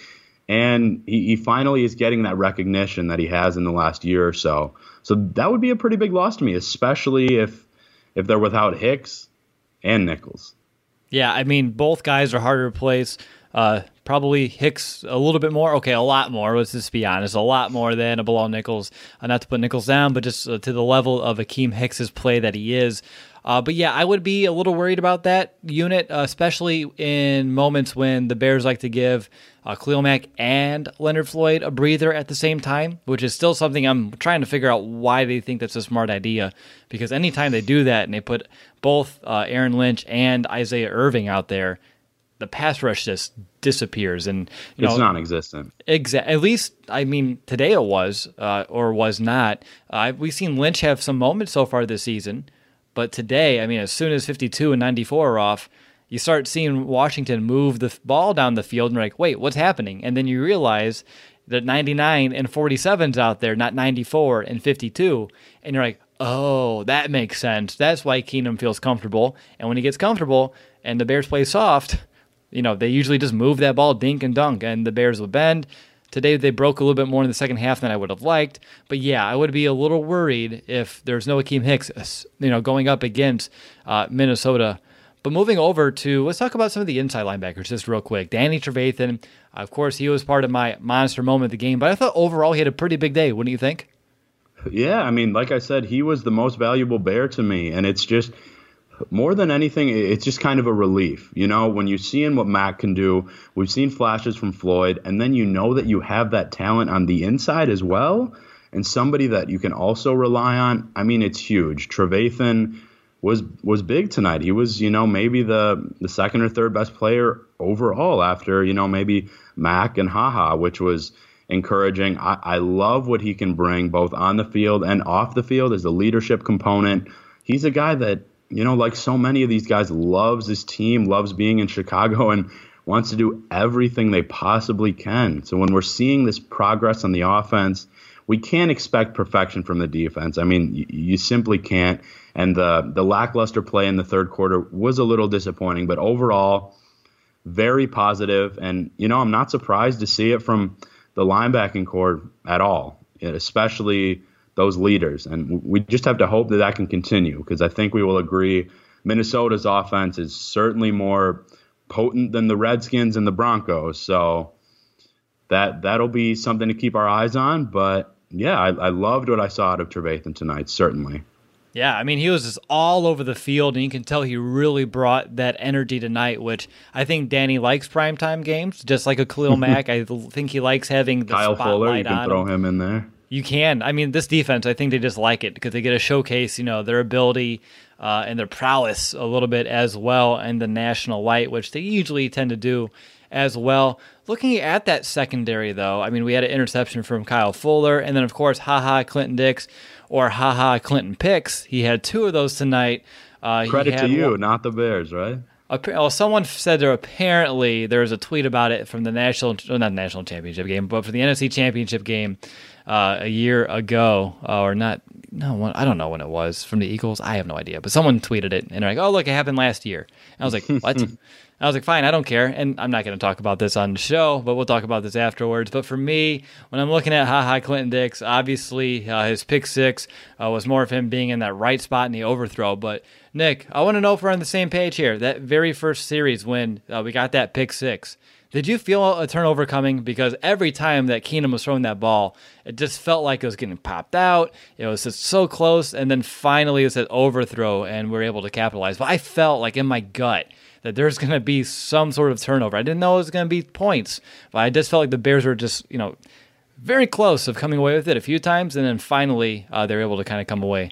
And he, he finally is getting that recognition that he has in the last year or so. So that would be a pretty big loss to me, especially if if they're without Hicks and Nichols. Yeah, I mean, both guys are harder to replace. Uh, probably Hicks a little bit more. Okay, a lot more. Let's just be honest. A lot more than a Bilal Nichols. Uh, not to put Nichols down, but just uh, to the level of Akeem Hicks's play that he is. Uh, but yeah, I would be a little worried about that unit, uh, especially in moments when the Bears like to give uh, Khalil Mack and Leonard Floyd a breather at the same time, which is still something I'm trying to figure out why they think that's a smart idea. Because anytime they do that and they put both uh, Aaron Lynch and Isaiah Irving out there, the pass rush just disappears. And you it's know, non-existent. Exa- at least, I mean, today it was uh, or was not. Uh, we've seen Lynch have some moments so far this season. But today, I mean, as soon as fifty-two and ninety-four are off, you start seeing Washington move the f- ball down the field, and you're like, wait, what's happening? And then you realize that ninety-nine and forty-seven's out there, not ninety-four and fifty-two. And you're like, oh, that makes sense. That's why Keenum feels comfortable. And when he gets comfortable and the Bears play soft, you know, they usually just move that ball dink and dunk, and the Bears will bend. Today they broke a little bit more in the second half than I would have liked. But yeah, I would be a little worried if there's no Akeem Hicks, you know, going up against uh, Minnesota. But moving over to, let's talk about some of the inside linebackers just real quick. Danny Trevathan, of course, he was part of my monster moment of the game, but I thought overall he had a pretty big day, wouldn't you think? Yeah, I mean, like I said, he was the most valuable Bear to me, and it's just, more than anything, it's just kind of a relief. You know, when you're seeing what Mac can do, we've seen flashes from Floyd, and then you know that you have that talent on the inside as well, and somebody that you can also rely on. I mean, it's huge. Trevathan was was big tonight. He was, you know, maybe the, the second or third best player overall after, you know, maybe Mac and HaHa, which was encouraging. I, I love what he can bring both on the field and off the field as a leadership component. He's a guy that, you know, like so many of these guys, loves his team, loves being in Chicago, and wants to do everything they possibly can. So when we're seeing this progress on the offense, we can't expect perfection from the defense. I mean, you, you simply can't. And the, the lackluster play in the third quarter was a little disappointing, but overall, very positive. And, you know, I'm not surprised to see it from the linebacking core at all, especially those leaders. And we just have to hope that that can continue, because I think we will agree Minnesota's offense is certainly more potent than the Redskins and the Broncos. So that, that'll be something to keep our eyes on. But, yeah, I, I loved what I saw out of Trevathan tonight, certainly. Yeah, I mean, he was just all over the field, and you can tell he really brought that energy tonight, which I think Danny likes primetime games, just like a Khalil Mack. I think he likes having the Kyle spotlight Fuller, you can on throw him. him in there. You can. I mean, this defense, I think they just like it because they get to showcase, you know, their ability uh, and their prowess a little bit as well in the national light, which they usually tend to do as well. Looking at that secondary, though, I mean, we had an interception from Kyle Fuller, and then, of course, HaHa Clinton Dix or HaHa Clinton Picks. He had two of those tonight. Uh, Credit to you, one, not the Bears, right? Well, someone said there apparently there was a tweet about it from the national, well, not national championship game, but for the N F C championship game uh, a year ago, uh, or not. No, I don't know when it was from the Eagles. I have no idea, but someone tweeted it and they're like, "Oh, look, it happened last year." And I was like, "What?" I was like, fine, I don't care. And I'm not going to talk about this on the show, but we'll talk about this afterwards. But for me, when I'm looking at HaHa Clinton Dix, obviously uh, his pick six uh, was more of him being in that right spot in the overthrow. But Nick, I want to know if we're on the same page here. That very first series when uh, we got that pick six, did you feel a turnover coming? Because every time that Keenum was throwing that ball, it just felt like it was getting popped out. It was just so close. And then finally it was that overthrow and we were able to capitalize. But I felt like in my gut that there's going to be some sort of turnover. I didn't know it was going to be points, but I just felt like the Bears were just, you know, very close of coming away with it a few times, and then finally uh, they were able to kind of come away.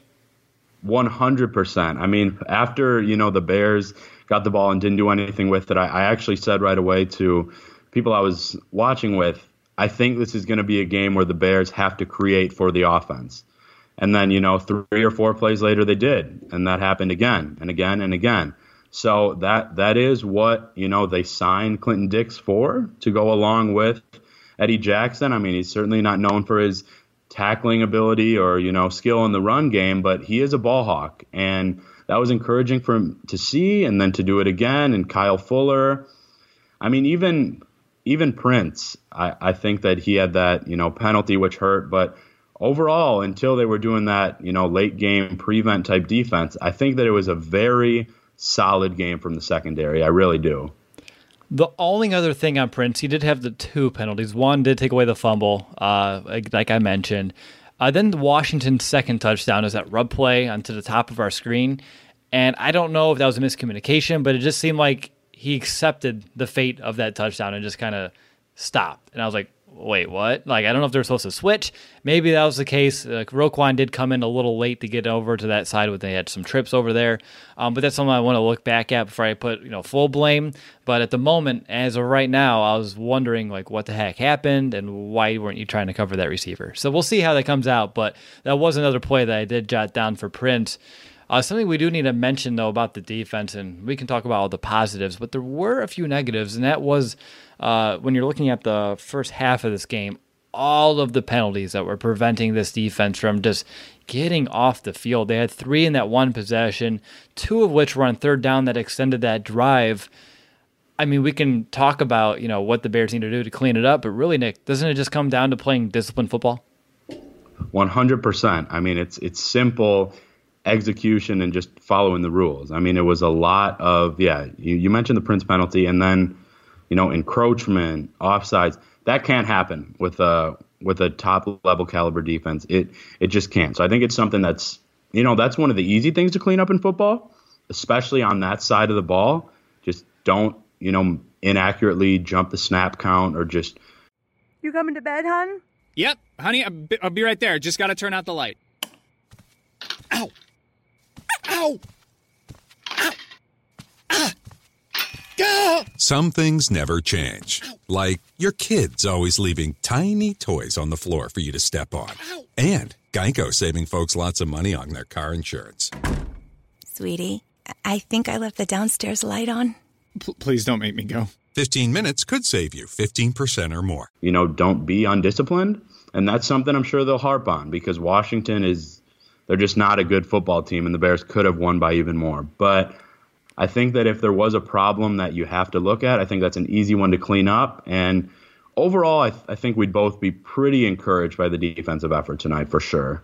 one hundred percent. I mean, after, you know, the Bears got the ball and didn't do anything with it, I, I actually said right away to people I was watching with, I think this is going to be a game where the Bears have to create for the offense. And then, you know, three or four plays later they did, and that happened again and again and again. So that that is what, you know, they signed Clinton Dix for, to go along with Eddie Jackson. I mean, he's certainly not known for his tackling ability or, you know, skill in the run game, but he is a ball hawk. And that was encouraging for him to see, and then to do it again. And Kyle Fuller, I mean, even even Prince, I, I think that he had that, you know, penalty which hurt. But overall, until they were doing that, you know, late game prevent type defense, I think that it was a very solid game from the secondary. I really do. The only other thing on Prince, he did have the two penalties. One did take away the fumble, uh, like, like I mentioned. Uh, then Washington's second touchdown is that rub play onto the top of our screen. And I don't know if that was a miscommunication, but it just seemed like he accepted the fate of that touchdown and just kind of stopped. And I was like, wait, what? Like, I don't know if they're supposed to switch. Maybe that was the case. Uh, Roquan did come in a little late to get over to that side, but they had some trips over there. Um, but that's something I want to look back at before I put, you know, full blame. But at the moment, as of right now, I was wondering, like, what the heck happened and why weren't you trying to cover that receiver? So we'll see how that comes out. But that was another play that I did jot down for Prince. Uh, something we do need to mention, though, about the defense, and we can talk about all the positives, but there were a few negatives, and that was uh, when you're looking at the first half of this game, all of the penalties that were preventing this defense from just getting off the field. They had three in that one possession, two of which were on third down that extended that drive. I mean, we can talk about, you know, what the Bears need to do to clean it up, but really, Nick, doesn't it just come down to playing disciplined football? one hundred percent. I mean, it's it's simple execution and just following the rules. I mean, it was a lot of, yeah, you, you mentioned the Prince penalty, and then, you know, encroachment, offsides. That can't happen with a with a top level caliber defense. It it just can't. So I think it's something that's, you know, that's one of the easy things to clean up in football, especially on that side of the ball. Just don't, you know, inaccurately jump the snap count or just. You coming to bed, hon? Yep, honey, I'll be, I'll be right there. Just got to turn out the light. Ow. Ow! Ow! Ah! Gah! Some things never change. Like your kids always leaving tiny toys on the floor for you to step on. And Geico saving folks lots of money on their car insurance. Sweetie, I think I left the downstairs light on. P- please don't make me go. fifteen minutes could save you fifteen percent or more. You know, don't be undisciplined. And that's something I'm sure they'll harp on because Washington is... They're just not a good football team, and the Bears could have won by even more. But I think that if there was a problem that you have to look at, I think that's an easy one to clean up. And overall, I, th- I think we'd both be pretty encouraged by the defensive effort tonight for sure.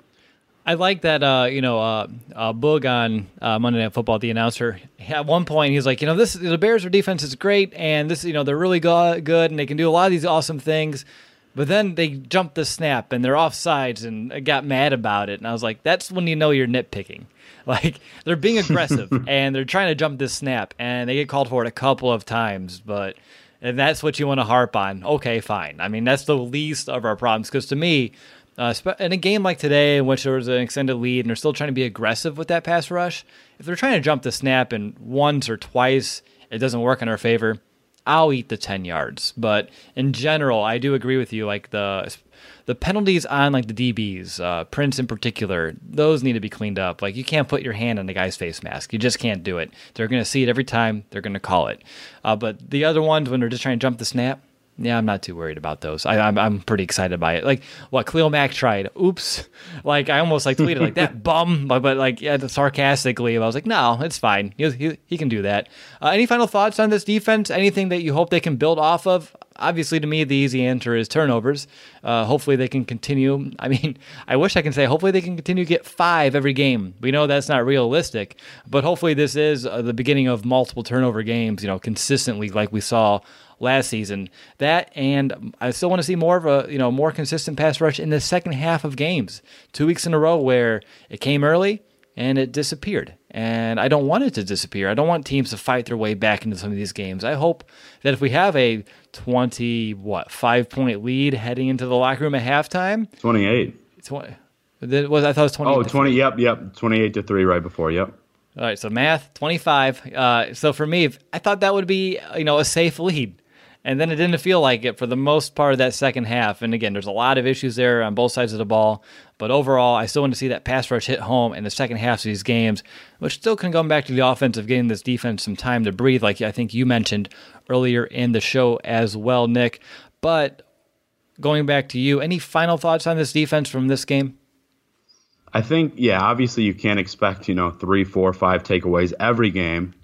I like that, uh, you know, uh, uh, Boog on uh, Monday Night Football, the announcer, at one point he's like, you know, this the Bears' defense is great, and this, you know, they're really go- good, and they can do a lot of these awesome things. But then they jumped the snap, and they're offsides, and I got mad about it. And I was like, that's when you know you're nitpicking. Like, they're being aggressive, and they're trying to jump this snap, and they get called for it a couple of times. But and that's what you want to harp on. Okay, fine. I mean, that's the least of our problems. Because to me, uh, in a game like today in which there was an extended lead, and they're still trying to be aggressive with that pass rush, if they're trying to jump the snap and once or twice it doesn't work in our favor, I'll eat the ten yards. But in general, I do agree with you. Like the the penalties on like the D Bs, uh, Prince in particular, those need to be cleaned up. Like you can't put your hand on the guy's face mask. You just can't do it. They're going to see it every time. They're going to call it. Uh, but the other ones, when they're just trying to jump the snap, yeah, I'm not too worried about those. I, I'm I'm pretty excited by it. Like what Khalil Mack tried. Oops. Like I almost like tweeted like that bum, but, but like yeah, sarcastically. I was like, no, it's fine. He he, he can do that. Uh, any final thoughts on this defense? Anything that you hope they can build off of? Obviously, to me, the easy answer is turnovers. Uh, hopefully, they can continue. I mean, I wish I can say hopefully they can continue to get five every game. We know that's not realistic, but hopefully this is uh, the beginning of multiple turnover games. You know, consistently like we saw last season. That, and I still want to see more of a, you know, more consistent pass rush in the second half of games. Two weeks in a row where it came early and it disappeared. And I don't want it to disappear. I don't want teams to fight their way back into some of these games. I hope that if we have a twenty, what, five point lead heading into the locker room at halftime. twenty-eight. twenty, was, I thought it was twenty. Oh, twenty, yep, yep. twenty-eight to three right before, yep. All right, so math, twenty-five. Uh, so for me, I thought that would be, you know, a safe lead. And then it didn't feel like it for the most part of that second half. And again, there's a lot of issues there on both sides of the ball. But overall, I still want to see that pass rush hit home in the second half of these games, which still can come back to the offense of getting this defense some time to breathe, like I think you mentioned earlier in the show as well, Nick. But going back to you, any final thoughts on this defense from this game? I think, yeah, obviously you can't expect, you know, three, four, five takeaways every game.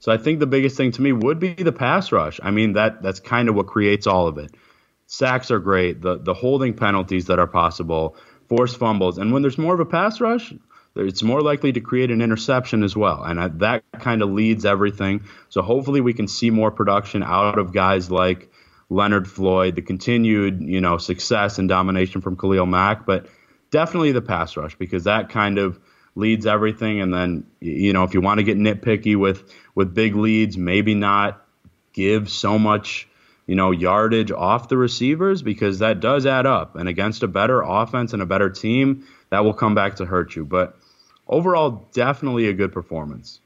So I think the biggest thing to me would be the pass rush. I mean, that that's kind of what creates all of it. Sacks are great, the the holding penalties that are possible, forced fumbles. And when there's more of a pass rush, it's more likely to create an interception as well. And I, that kind of leads everything. So hopefully we can see more production out of guys like Leonard Floyd, the continued, you know, success and domination from Khalil Mack, but definitely the pass rush, because that kind of leads everything. And then, you know, if you want to get nitpicky with, with big leads, maybe not give so much, you know, yardage off the receivers, because that does add up. And against a better offense and a better team, that will come back to hurt you. But overall, definitely a good performance.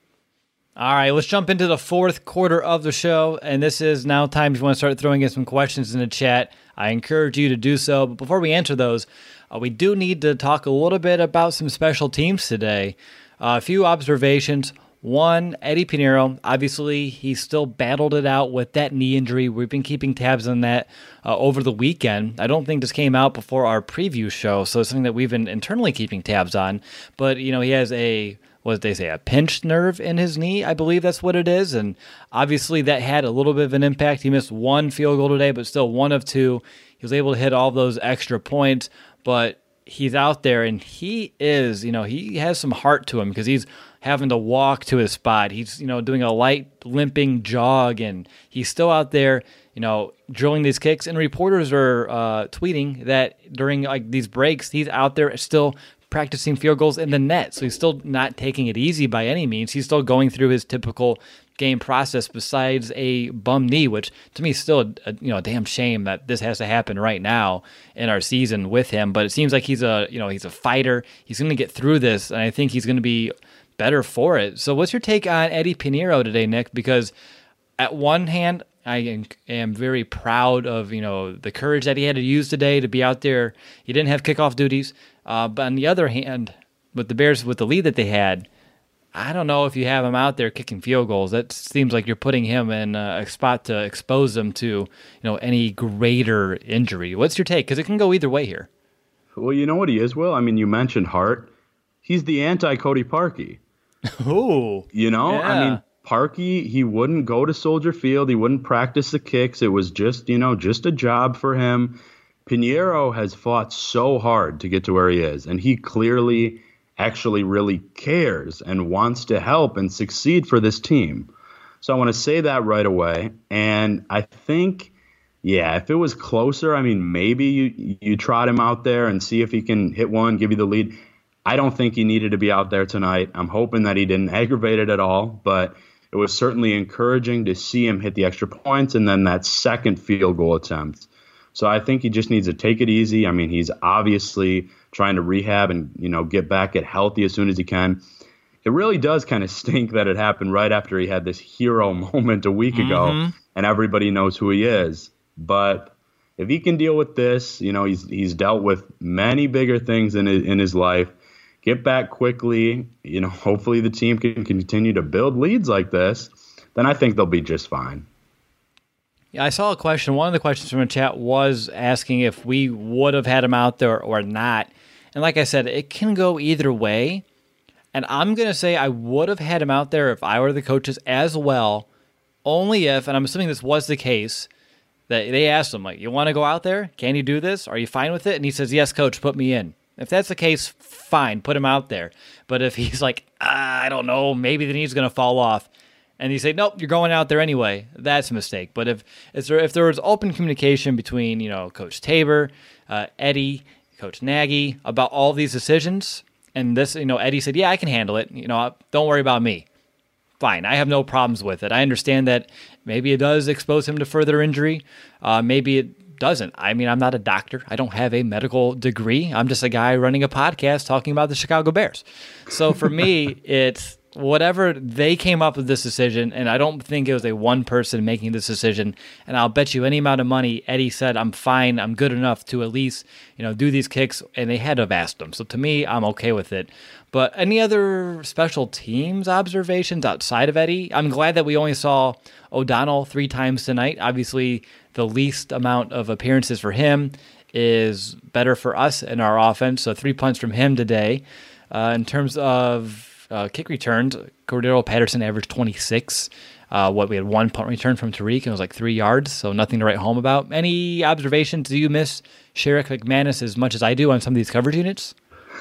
All right, let's jump into the fourth quarter of the show, and this is now time if you want to start throwing in some questions in the chat. I encourage you to do so, but before we answer those, uh, we do need to talk a little bit about some special teams today. Uh, a few observations. One, Eddie Pinheiro, obviously he still battled it out with that knee injury. We've been keeping tabs on that uh, over the weekend. I don't think this came out before our preview show, so it's something that we've been internally keeping tabs on. But, you know, he has a, what did they say, a pinched nerve in his knee, I believe that's what it is. And obviously that had a little bit of an impact. He missed one field goal today, but still one of two. He was able to hit all those extra points, but he's out there and he is, you know, he has some heart to him because he's having to walk to his spot. He's, you know, doing a light limping jog, and he's still out there, you know, drilling these kicks. And reporters are uh, tweeting that during like these breaks, he's out there still practicing field goals in the net. So he's still not taking it easy by any means. He's still going through his typical game process besides a bum knee, which to me is still a, a you know a damn shame that this has to happen right now in our season with him. But it seems like he's a you know he's a fighter. He's going to get through this, and I think he's going to be better for it. So what's your take on Eddie Pinheiro today, Nick? Because at one hand, I am very proud of, you know, the courage that he had to use today to be out there. He didn't have kickoff duties. Uh, but on the other hand, with the Bears, with the lead that they had, I don't know if you have him out there kicking field goals. That seems like you're putting him in a spot to expose him to, you know, any greater injury. What's your take? Because it can go either way here. Well, you know what he is, Will? I mean, you mentioned Hart. He's the anti-Cody Parkey. Ooh. You know, yeah. I mean, Parkey, he wouldn't go to Soldier Field. He wouldn't practice the kicks. It was just, you know, just a job for him. Pinheiro has fought so hard to get to where he is, and he clearly actually really cares and wants to help and succeed for this team. So I want to say that right away. And I think, yeah, if it was closer, I mean, maybe you, you trot him out there and see if he can hit one, give you the lead. I don't think he needed to be out there tonight. I'm hoping that he didn't aggravate it at all, but it was certainly encouraging to see him hit the extra points and then that second field goal attempt. So I think he just needs to take it easy. I mean, he's obviously trying to rehab and, you know, get back, get healthy as soon as he can. It really does kind of stink that it happened right after he had this hero moment a week mm-hmm. ago, and everybody knows who he is. But if he can deal with this, you know, he's he's dealt with many bigger things in his, in his life. Get back quickly, you know, hopefully the team can continue to build leads like this, then I think they'll be just fine. Yeah, I saw a question. One of the questions from the chat was asking if we would have had him out there or not. And like I said, it can go either way. And I'm going to say I would have had him out there if I were the coaches as well, only if, and I'm assuming this was the case, that they asked him, like, you want to go out there? Can you do this? Are you fine with it? And he says, yes, coach, put me in. If that's the case, fine, put him out there. But if he's like, ah, I don't know, maybe the knee's going to fall off, and you say, nope, you're going out there anyway, that's a mistake. But if if there, if there was open communication between, you know, Coach Tabor, uh, Eddie, Coach Nagy about all these decisions, and this, you know, Eddie said, yeah, I can handle it. You know, don't worry about me. Fine, I have no problems with it. I understand that maybe it does expose him to further injury. Uh, maybe it doesn't. I mean, I'm not a doctor. I don't have a medical degree. I'm just a guy running a podcast talking about the Chicago Bears. So for me, it's whatever they came up with this decision, and I don't think it was a one person making this decision. And I'll bet you any amount of money, Eddie said, I'm fine, I'm good enough to at least, you know, do these kicks, and they had to have asked him. So to me, I'm okay with it. But any other special teams observations outside of Eddie? I'm glad that we only saw O'Donnell three times tonight. Obviously, the least amount of appearances for him is better for us in our offense. So three punts from him today. Uh, in terms of uh, kick returns. Cordero Patterson averaged twenty-six. Uh, what we had one punt return from Tariq, and it was like three yards, so nothing to write home about. Any observations? Do you miss Sherrick McManus as much as I do on some of these coverage units?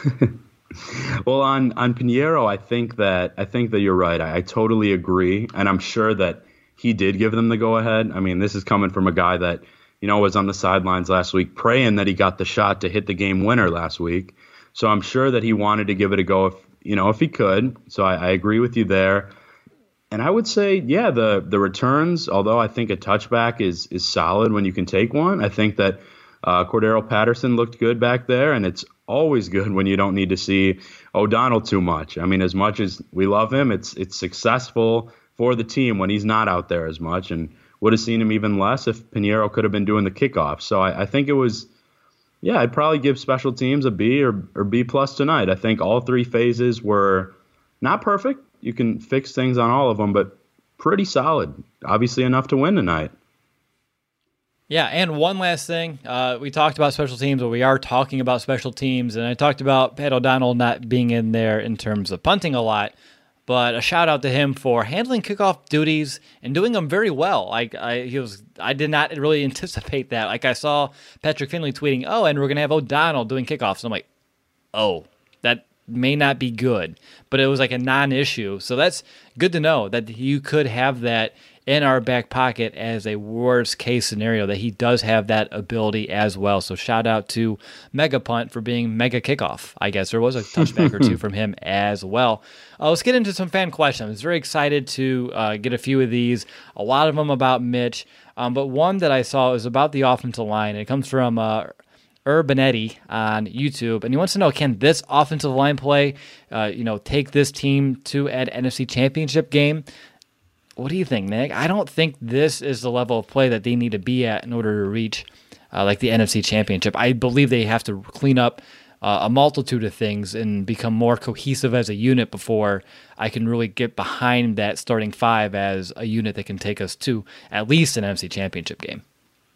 Well, on on Pinheiro, I think that I think that you're right. I, I totally agree, and I'm sure that he did give them the go ahead. I mean, this is coming from a guy that you know was on the sidelines last week, praying that he got the shot to hit the game winner last week. So I'm sure that he wanted to give it a go if you know if he could. So I, I agree with you there. And I would say, yeah, the the returns, although I think a touchback is is solid when you can take one. I think that uh, Cordero Patterson looked good back there, and it's always good when you don't need to see O'Donnell too much. I mean, as much as we love him, it's it's successful for the team when he's not out there as much, and would have seen him even less if Pinheiro could have been doing the kickoff. So I, I think it was, yeah, I'd probably give special teams a B or, or B plus tonight. I think all three phases were not perfect. You can fix things on all of them, but pretty solid. Obviously enough to win tonight. Yeah, and one last thing. Uh, we talked about special teams, but we are talking about special teams, and I talked about Pat O'Donnell not being in there in terms of punting a lot, but a shout-out to him for handling kickoff duties and doing them very well. Like I, he was, I did not really anticipate that. Like I saw Patrick Finley tweeting, oh, and we're going to have O'Donnell doing kickoffs. And I'm like, oh, that may not be good, but it was like a non-issue. So that's good to know that you could have that in our back pocket as a worst case scenario, that he does have that ability as well. So shout out to Mega Punt for being Mega Kickoff. I guess there was a touchback or two from him as well. Uh, let's get into some fan questions. I was very excited to uh, get a few of these, a lot of them about Mitch, um, but one that I saw is about the offensive line. It comes from uh, Urbanetti on YouTube, and he wants to know, can this offensive line play, uh, you know, take this team to an N F C Championship game? What do you think, Nick? I don't think this is the level of play that they need to be at in order to reach uh, like the N F C Championship. I believe they have to clean up uh, a multitude of things and become more cohesive as a unit before I can really get behind that starting five as a unit that can take us to at least an N F C Championship game.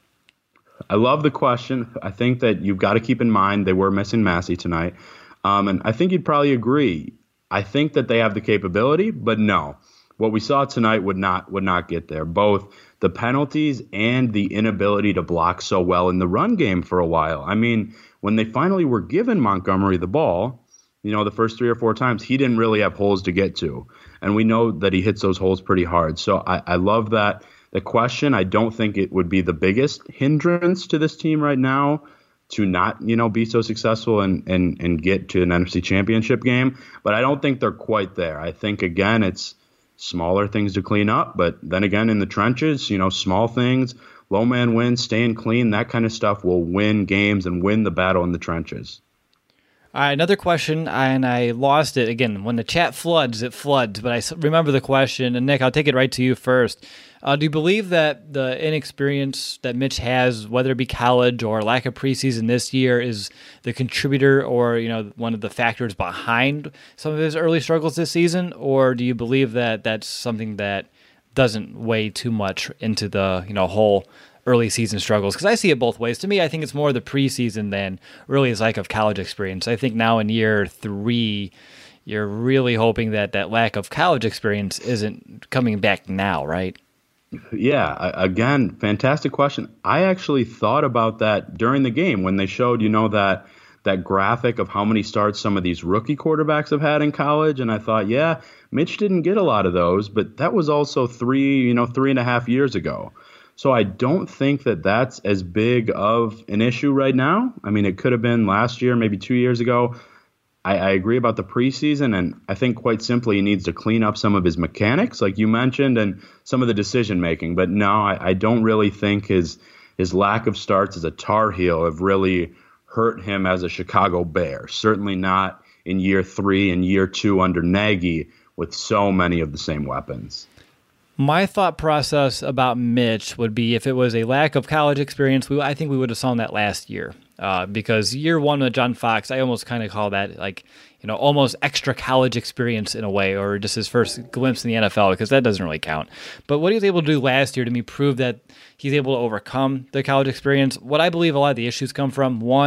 I love the question. I think that you've got to keep in mind they were missing Massey tonight. Um, and I think you'd probably agree. I think that they have the capability, but no. What we saw tonight would not would not get there. Both the penalties and the inability to block so well in the run game for a while. I mean, when they finally were given Montgomery the ball, you know, the first three or four times, he didn't really have holes to get to. And we know that he hits those holes pretty hard. So I, I love that. The question, I don't think it would be the biggest hindrance to this team right now to not, you know, be so successful and, and, and get to an N F C Championship game. But I don't think they're quite there. I think, again, it's smaller things to clean up. But then again, in the trenches, you know, small things, low man wins, staying clean, that kind of stuff will win games and win the battle in the trenches. All right, another question, and I lost it. Again, when the chat floods, it floods, but I remember the question. And Nick, I'll take it right to you first. Uh, do you believe that the inexperience that Mitch has, whether it be college or lack of preseason this year, is the contributor or, you know, one of the factors behind some of his early struggles this season? Or do you believe that that's something that doesn't weigh too much into the, you know, whole early season struggles? Because I see it both ways. To me, I think it's more the preseason than really his lack of college experience. I think now in year three, you're really hoping that that lack of college experience isn't coming back now, right? Yeah, again, fantastic question. I actually thought about that during the game when they showed, you know, that that graphic of how many starts some of these rookie quarterbacks have had in college. And I thought, yeah, Mitch didn't get a lot of those, but that was also three, you know, three and a half years ago. So I don't think that that's as big of an issue right now. I mean, it could have been last year, maybe two years ago. I, I agree about the preseason, and I think quite simply he needs to clean up some of his mechanics, like you mentioned, and some of the decision-making. But no, I, I don't really think his his lack of starts as a Tar Heel have really hurt him as a Chicago Bear. Certainly not in year three and year two under Nagy with so many of the same weapons. My thought process about Mitch would be if it was a lack of college experience, we, I think we would have seen that last year. Uh, because year one with John Fox, I almost kind of call that like, you know, almost extra college experience in a way, or just his first glimpse in the N F L, because that doesn't really count. But what he was able to do last year to me proved that he's able to overcome the college experience. What I believe a lot of the issues come from, one,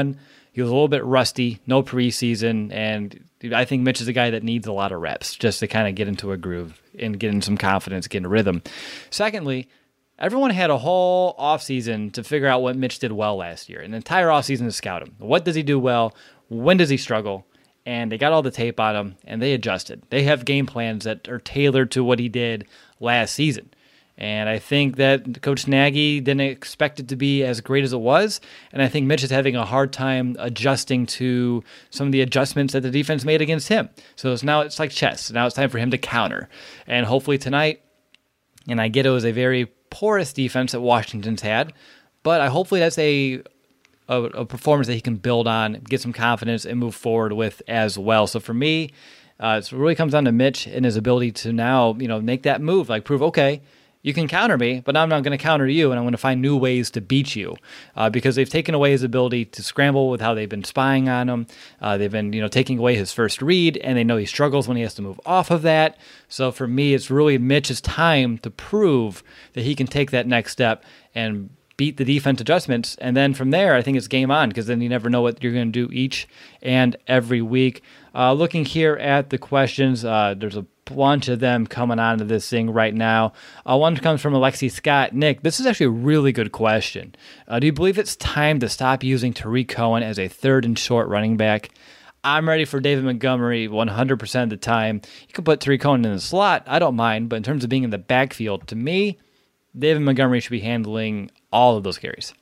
He was a little bit rusty, no preseason, and I think Mitch is a guy that needs a lot of reps just to kind of get into a groove and get in some confidence, get in a rhythm. Secondly, everyone had a whole offseason to figure out what Mitch did well last year, an entire offseason to scout him. What does he do well? When does he struggle? And they got all the tape on him, and they adjusted. They have game plans that are tailored to what he did last season. And I think that Coach Nagy didn't expect it to be as great as it was. And I think Mitch is having a hard time adjusting to some of the adjustments that the defense made against him. So it's now it's like chess. Now it's time for him to counter. And hopefully tonight, and I get it was a very porous defense that Washington's had, but I hopefully that's a, a, a performance that he can build on, get some confidence, and move forward with as well. So for me, uh, it really comes down to Mitch and his ability to now, you know, make that move, like prove, okay, you can counter me, but I'm not going to counter you, and I'm going to find new ways to beat you uh, because they've taken away his ability to scramble with how they've been spying on him. Uh, they've been, you know, taking away his first read, and they know he struggles when he has to move off of that. So for me, it's really Mitch's time to prove that he can take that next step and beat the defense adjustments. And then from there, I think it's game on because then you never know what you're going to do each and every week. Uh, looking here at the questions, uh, there's a bunch of them coming onto this thing right now. Uh, one comes from Alexi Scott. Nick, this is actually a really good question. Uh, do you believe it's time to stop using Tariq Cohen as a third and short running back? I'm ready for David Montgomery one hundred percent of the time. You can put Tariq Cohen in the slot. I don't mind. But in terms of being in the backfield, to me, David Montgomery should be handling all of those carries.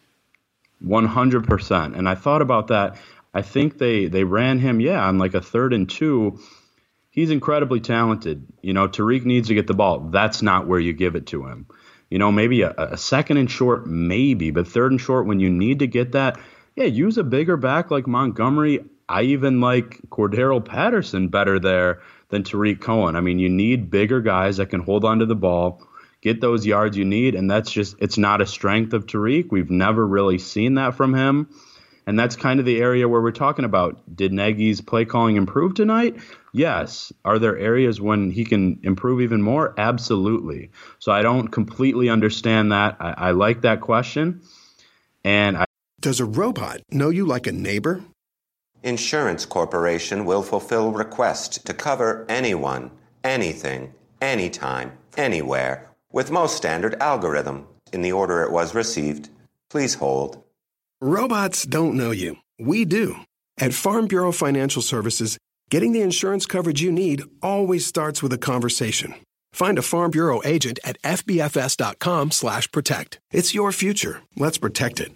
one hundred percent. And I thought about that. I think they, they ran him, yeah, on like a third and two. He's incredibly talented. You know, Tariq needs to get the ball. That's not where you give it to him. You know, maybe a, a second and short, maybe, but third and short when you need to get that, yeah, use a bigger back like Montgomery. I even like Cordero Patterson better there than Tariq Cohen. I mean, you need bigger guys that can hold onto the ball, get those yards you need, and that's just, it's not a strength of Tariq. We've never really seen that from him. And that's kind of the area where we're talking about. Did Nagy's play calling improve tonight? Yes. Are there areas when he can improve even more? Absolutely. So I don't completely understand that. I, I like that question. And I Does a robot know you like a neighbor? Insurance Corporation will fulfill requests to cover anyone, anything, anytime, anywhere, with most standard algorithm in the order it was received. Please hold. Robots don't know you. We do. At Farm Bureau Financial Services, getting the insurance coverage you need always starts with a conversation. Find a Farm Bureau agent at F B F S dot com slash protect. It's your future. Let's protect it.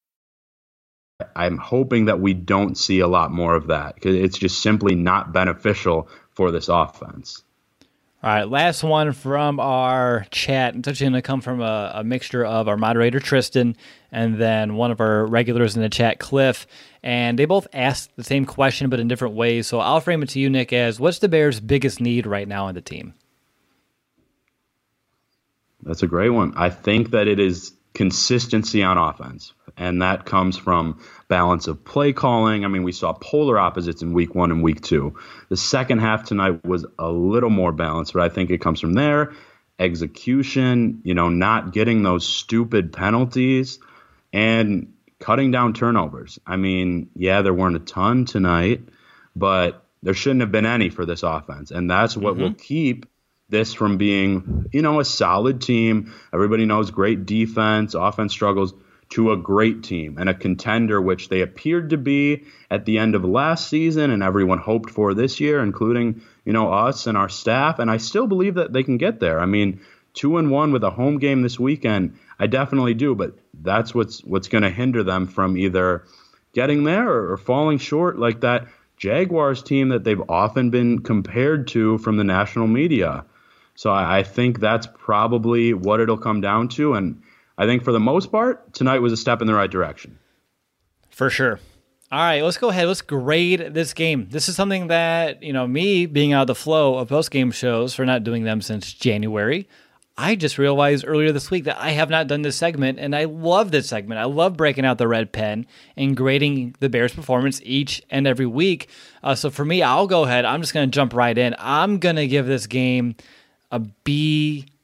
I'm hoping that we don't see a lot more of that because it's just simply not beneficial for this offense. All right, last one from our chat. It's actually going to come from a, a mixture of our moderator, Tristan, and then one of our regulars in the chat, Cliff. And they both asked the same question, but in different ways. So I'll frame it to you, Nick, as what's the Bears' biggest need right now on the team? That's a great one. I think that it is consistency on offense, and that comes from balance of play calling. I mean, we saw polar opposites in week one and week two. The second half tonight was a little more balanced, but I think it comes from there. Execution, you know, not getting those stupid penalties and cutting down turnovers. I mean, yeah, there weren't a ton tonight, but there shouldn't have been any for this offense, and that's what mm-hmm. will keep this from being, you know, a solid team. Everybody knows great defense, offense struggles, to a great team and a contender, which they appeared to be at the end of last season and everyone hoped for this year, including, you know, us and our staff. And I still believe that they can get there. I mean, two and one with a home game this weekend, I definitely do. But that's what's what's going to hinder them from either getting there or, or falling short like that Jaguars team that they've often been compared to from the national media. So I, I think that's probably what it'll come down to. And I think for the most part, tonight was a step in the right direction. For sure. All right, let's go ahead. Let's grade this game. This is something that, you know, me being out of the flow of post-game shows for not doing them since January, I just realized earlier this week that I have not done this segment, and I love this segment. I love breaking out the red pen and grading the Bears' performance each and every week. Uh, so for me, I'll go ahead. I'm just going to jump right in. I'm going to give this game a B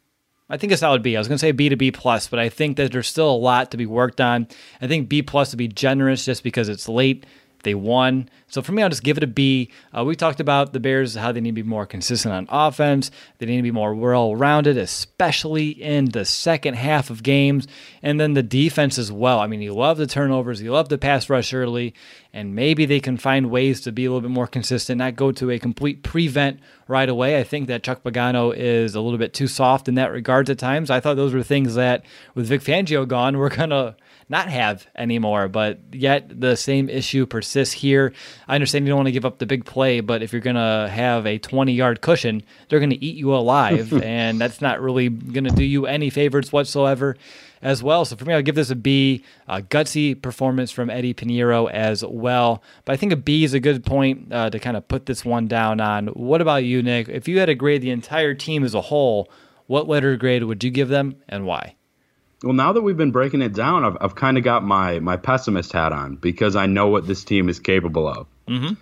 I think a solid B. I was going to say B to B plus, but I think that there's still a lot to be worked on. I think B plus would be generous just because it's late. They won. So for me, I'll just give it a B. Uh, we talked about the Bears, how they need to be more consistent on offense. They need to be more well-rounded, especially in the second half of games. And then the defense as well. I mean, you love the turnovers. You love the pass rush early. And maybe they can find ways to be a little bit more consistent, not go to a complete prevent right away. I think that Chuck Pagano is a little bit too soft in that regard at times. I thought those were things that, with Vic Fangio gone, we're going to not have anymore, but yet the same issue persists here. I understand you don't want to give up the big play, but if you're going to have a twenty-yard cushion, they're going to eat you alive, and that's not really going to do you any favors whatsoever as well. So for me, I'll give this a B. A gutsy performance from Eddie Pinheiro as well. But I think a B is a good point uh, to kind of put this one down on. What about you, Nick? If you had to grade the entire team as a whole, what letter grade would you give them and why? Well, now that we've been breaking it down, I've, I've kind of got my my pessimist hat on because I know what this team is capable of. Mm-hmm.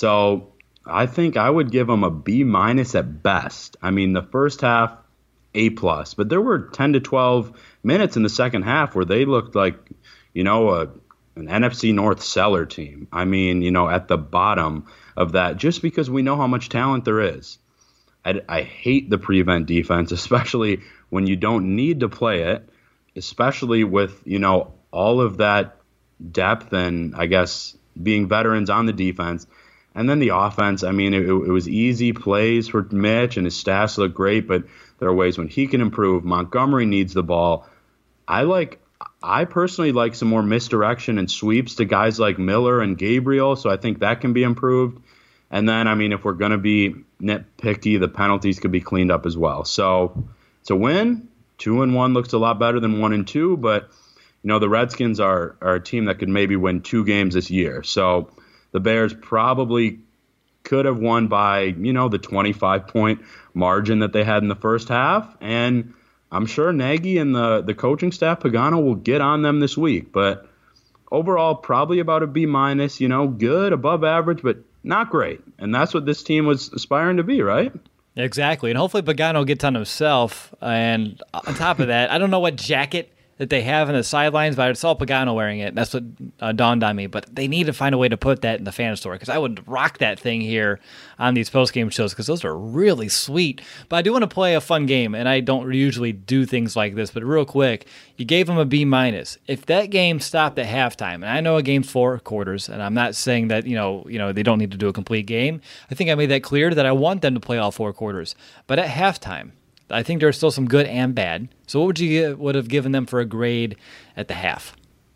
So I think I would give them a B minus at best. I mean, the first half, A plus, but there were ten to twelve minutes in the second half where they looked like, you know, a, an N F C North cellar team. I mean, you know, at the bottom of that, just because we know how much talent there is. I, I hate the prevent defense, especially when you don't need to play it. Especially with, you know, all of that depth and, I guess, being veterans on the defense. And then the offense, I mean, it, it was easy plays for Mitch, and his stats look great, but there are ways when he can improve. Montgomery needs the ball. I like, I personally like some more misdirection and sweeps to guys like Miller and Gabriel, so I think that can be improved. And then, I mean, if we're going to be nitpicky, the penalties could be cleaned up as well. So it's a win. Two and one looks a lot better than one and two, but you know the Redskins are are a team that could maybe win two games this year. So the Bears probably could have won by you know the twenty-five point margin that they had in the first half, and I'm sure Nagy and the the coaching staff, Pagano, will get on them this week. But overall, probably about a B minus. You know, good, above average, but not great. And that's what this team was aspiring to be, right? Exactly, and hopefully Pagano gets on himself. And on top of that, I don't know what jacket that they have in the sidelines, but I saw Pagano wearing it. That's what uh, dawned on me. But they need to find a way to put that in the fan store because I would rock that thing here on these post-game shows because those are really sweet. But I do want to play a fun game, and I don't usually do things like this. But real quick, you gave them a B minus. If that game stopped at halftime, and I know a game's four quarters, and I'm not saying that you know you know they don't need to do a complete game. I think I made that clear that I want them to play all four quarters. But at halftime, I think there's still some good and bad. So what would you give, would have given them for a grade at the half?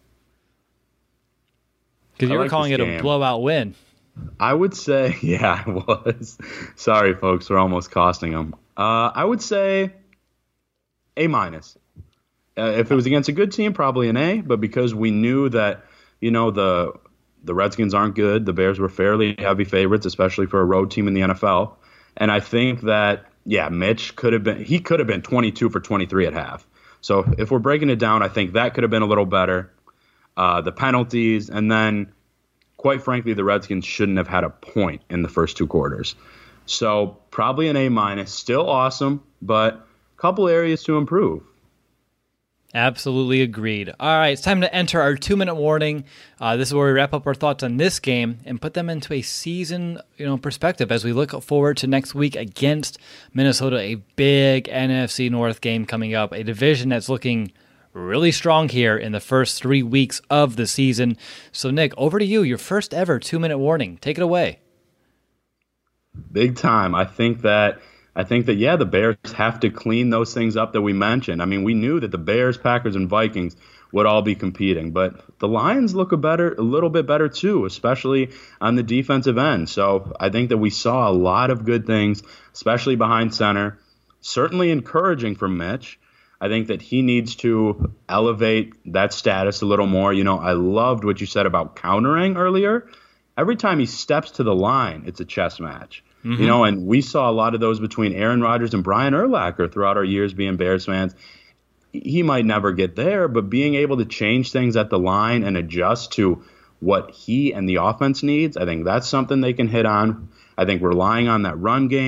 Because you were like calling it game. a blowout win. I would say, yeah, I was. Sorry, folks, we're almost costing them. Uh, I would say A minus. Uh, if it was against a good team, probably an A. But because we knew that, you know, the the Redskins aren't good, the Bears were fairly heavy favorites, especially for a road team in the N F L. And I think that. Yeah, Mitch could have been, he could have been twenty-two for twenty-three at half. So if we're breaking it down, I think that could have been a little better. Uh, the penalties, and then, quite frankly, the Redskins shouldn't have had a point in the first two quarters. So probably an A minus, still awesome, but a couple areas to improve. Absolutely agreed. All right, it's time to enter our two-minute warning. Uh, this is where we wrap up our thoughts on this game and put them into a season, you know, perspective as we look forward to next week against Minnesota, a big N F C North game coming up, a division that's looking really strong here in the first three weeks of the season. So, Nick, over to you, your first ever two-minute warning. Take it away. Big time. I think that I think that, yeah, the Bears have to clean those things up that we mentioned. I mean, we knew that the Bears, Packers, and Vikings would all be competing, but the Lions look a better, a little bit better too, especially on the defensive end. So I think that we saw a lot of good things, especially behind center. Certainly encouraging for Mitch. I think that he needs to elevate that status a little more. You know, I loved what you said about countering earlier. Every time he steps to the line, it's a chess match. Mm-hmm. You know, and we saw a lot of those between Aaron Rodgers and Brian Urlacher throughout our years being Bears fans. He might never get there, but being able to change things at the line and adjust to what he and the offense needs, I think that's something they can hit on. I think relying on that run game,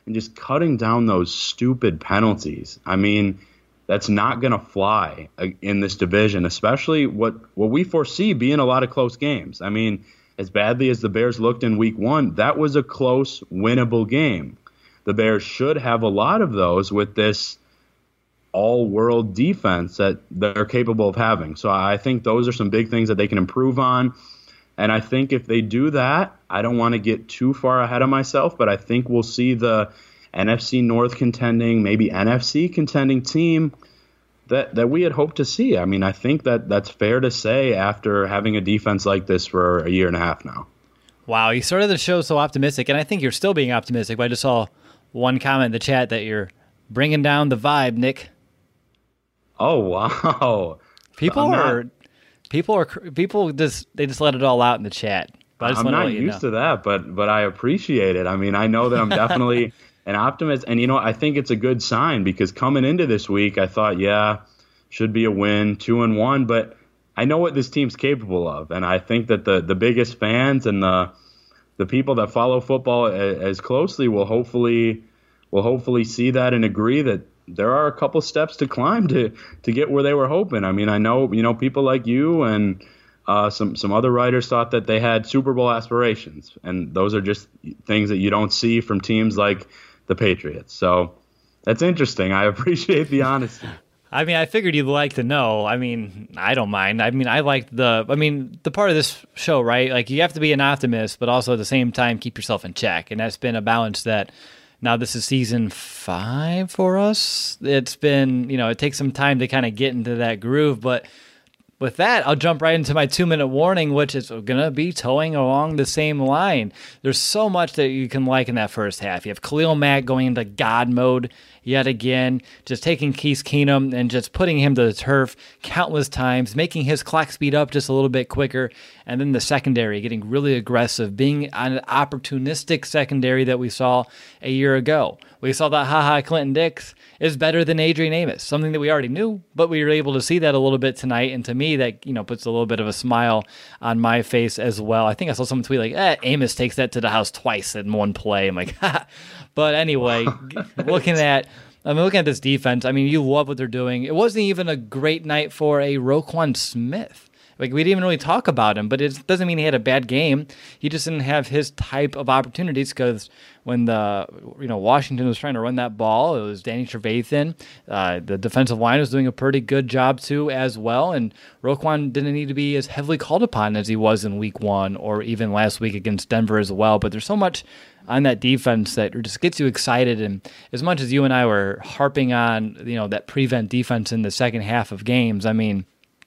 and just cutting down those stupid penalties. I mean, that's not going to fly in this division, especially what, what we foresee being a lot of close games. I mean, as badly as the Bears looked in week one, that was a close, winnable game. The Bears should have a lot of those with this all-world defense that they're capable of having. So I think those are some big things that they can improve on. And I think if they do that, I don't want to get too far ahead of myself, but I think we'll see the N F C North contending, maybe N F C contending team that, that we had hoped to see. I mean, I think that that's fair to say after having a defense like this for a year and a half now. Wow, you started the show so optimistic, and I think you're still being optimistic, but I just saw one comment in the chat that you're bringing down the vibe, Nick. Oh, wow. People not, are... People are people just they just let it all out in the chat. But I just I'm want to not let you used know. to that, but but I appreciate it. I mean, I know that I'm definitely an optimist, and you know, I think it's a good sign because coming into this week, I thought, yeah, should be a win, two and one, but I know what this team's capable of, and I think that the the biggest fans and the the people that follow football as, as closely will hopefully will hopefully see that and agree that there are a couple steps to climb to to get where they were hoping. I mean, I know, you know, people like you and uh, some some other writers thought that they had Super Bowl aspirations, and those are just things that you don't see from teams like the Patriots. So that's interesting. I appreciate the honesty. I mean, I figured you'd like to know. I mean, I don't mind. I mean, I like the, I mean, the part of this show, right? Like, you have to be an optimist, but also at the same time, keep yourself in check. And that's been a balance that now this is season five for us. It's been, you know, it takes some time to kind of get into that groove. But with that, I'll jump right into my two-minute warning, which is going to be towing along the same line. There's so much that you can like in that first half. You have Khalil Mack going into God mode yet again, just taking Case Keenum and just putting him to the turf countless times, making his clock speed up just a little bit quicker, and then the secondary getting really aggressive, being an opportunistic secondary that we saw a year ago. We saw that Ha Ha Clinton Dix is better than Adrian Amos, something that we already knew, but we were able to see that a little bit tonight, and to me, that, you know, puts a little bit of a smile on my face as well. I think I saw someone tweet like, eh, Amos takes that to the house twice in one play. I'm like, ha. But anyway, looking at I mean, looking at this defense, I mean, you love what they're doing. It wasn't even a great night for a Roquan Smith. Like, we didn't even really talk about him, but it doesn't mean he had a bad game. He just didn't have his type of opportunities because when the you know Washington was trying to run that ball, it was Danny Trevathan. Uh, the defensive line was doing a pretty good job too as well, and Roquan didn't need to be as heavily called upon as he was in week one or even last week against Denver as well. But there's so much on that defense that just gets you excited. And as much as you and I were harping on, you know, that prevent defense in the second half of games, I mean,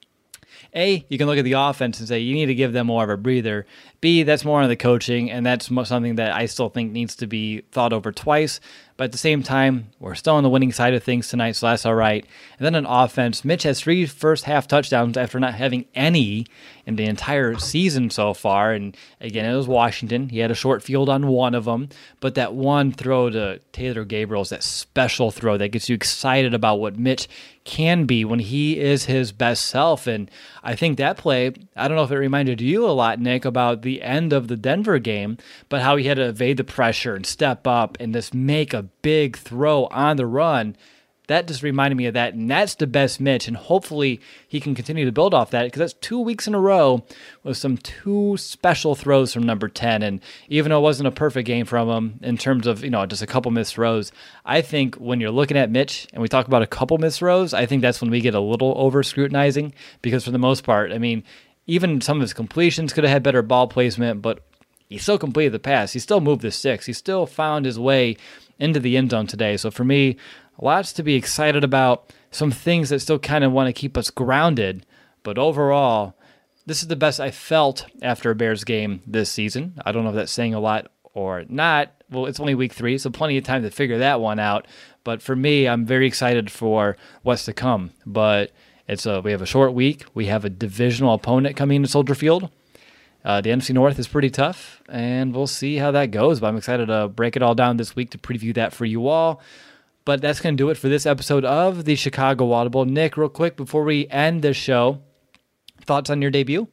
A, you can look at the offense and say you need to give them more of a breather. B, that's more on the coaching, and that's something that I still think needs to be thought over twice. But at the same time, we're still on the winning side of things tonight, so that's all right. And then on offense, Mitch has three first-half touchdowns after not having any in the entire season so far. And again, it was Washington. He had a short field on one of them. But that one throw to Taylor Gabriel is that special throw that gets you excited about what Mitch can be when he is his best self. And I think that play, I don't know if it reminded you a lot, Nick, about the end of the Denver game, but how he had to evade the pressure and step up and just make a big throw on the run. That just reminded me of that, and that's the best Mitch, and hopefully he can continue to build off that, because that's two weeks in a row with some two special throws from number ten, and even though it wasn't a perfect game from him in terms of, you know, just a couple missed throws, I think when you're looking at Mitch, and we talk about a couple missed throws, I think that's when we get a little over-scrutinizing, because for the most part, I mean, even some of his completions could have had better ball placement, but he still completed the pass. He still moved the sticks. He still found his way into the end zone today. So for me, lots to be excited about, some things that still kind of want to keep us grounded. But overall, this is the best I felt after a Bears game this season. I don't know if that's saying a lot or not. Well, it's only week three, so plenty of time to figure that one out. But for me, I'm very excited for what's to come. But it's a, we have a short week. We have a divisional opponent coming into Soldier Field. Uh, the N F C North is pretty tough, and we'll see how that goes. But I'm excited to break it all down this week to preview that for you all. But that's going to do it for this episode of the Chicago Audible. Nick, real quick, before we end the show, thoughts on your debut?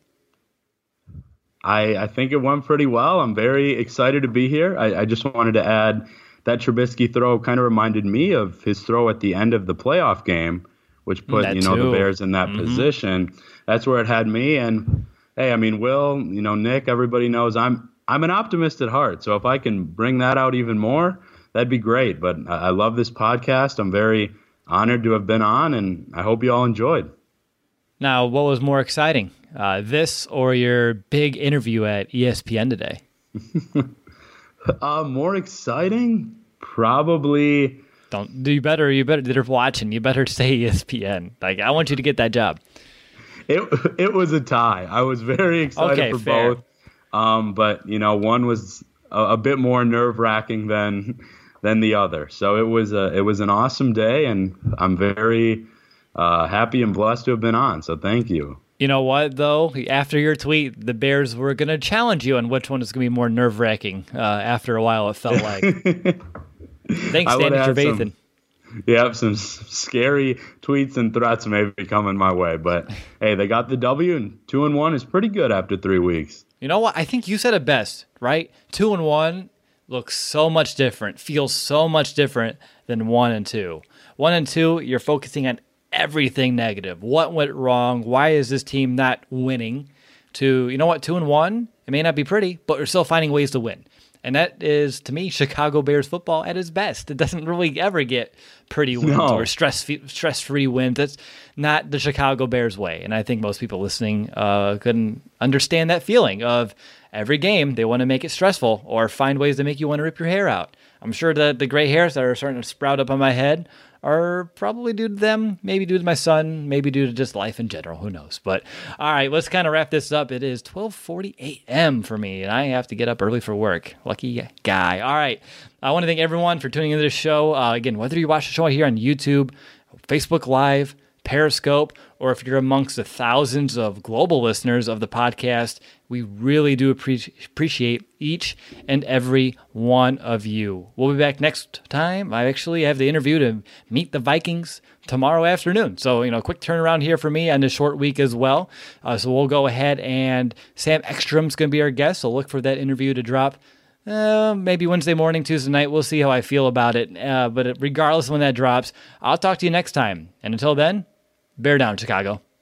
I, I think it went pretty well. I'm very excited to be here. I, I just wanted to add that Trubisky throw kind of reminded me of his throw at the end of the playoff game, which put, that you know, too. the Bears in that mm-hmm. position. That's where it had me. And, hey, I mean, Will, you know, Nick, everybody knows I'm I'm an optimist at heart. So if I can bring that out even more, that'd be great. But I, I love this podcast. I'm very honored to have been on, and I hope you all enjoyed. Now, what was more exciting, uh, this or your big interview at E S P N today? uh, more exciting? Probably. Don't do you better. You better. They're watching. You better say E S P N. Like, I want you to get that job. It it was a tie. I was very excited okay, for fair. both. Um, but you know, one was a, a bit more nerve wracking than than the other. So it was a it was an awesome day, and I'm very uh, happy and blessed to have been on. So thank you. You know what, though? After your tweet, the Bears were going to challenge you on which one is going to be more nerve-wracking. Uh, after a while, it felt like. Thanks, Danny Trevathan. Yeah, some scary tweets and threats may be coming my way. But, hey, they got the W, and two and one is pretty good after three weeks. You know what? I think you said it best, right? Two and one looks so much different, feels so much different than one and two. One and two, you're focusing on everything negative. What went wrong? Why is this team not winning? To, you know what, two and one, it may not be pretty, but we're still finding ways to win. And that is, to me, Chicago Bears football at its best. It doesn't really ever get pretty wins no. or stress stress-free wins. That's not the Chicago Bears way. And I think most people listening uh, couldn't understand that feeling of every game they want to make it stressful or find ways to make you want to rip your hair out. I'm sure that the gray hairs that are starting to sprout up on my head are probably due to them, maybe due to my son, maybe due to just life in general. Who knows? But all right, let's kind of wrap this up. It is twelve forty a.m. for me, and I have to get up early for work. Lucky guy. All right, I want to thank everyone for tuning into this show. Uh, again, whether you watch the show here on YouTube, Facebook Live, Periscope, or if you're amongst the thousands of global listeners of the podcast, we really do appreci- appreciate each and every one of you. We'll be back next time. I actually have the interview to meet the Vikings tomorrow afternoon. So, you know, quick turnaround here for me on this short week as well. Uh, so we'll go ahead, and Sam Ekstrom's going to be our guest. So look for that interview to drop Uh, maybe Wednesday morning, Tuesday night. We'll see how I feel about it. Uh, but regardless of when that drops, I'll talk to you next time. And until then, bear down, Chicago.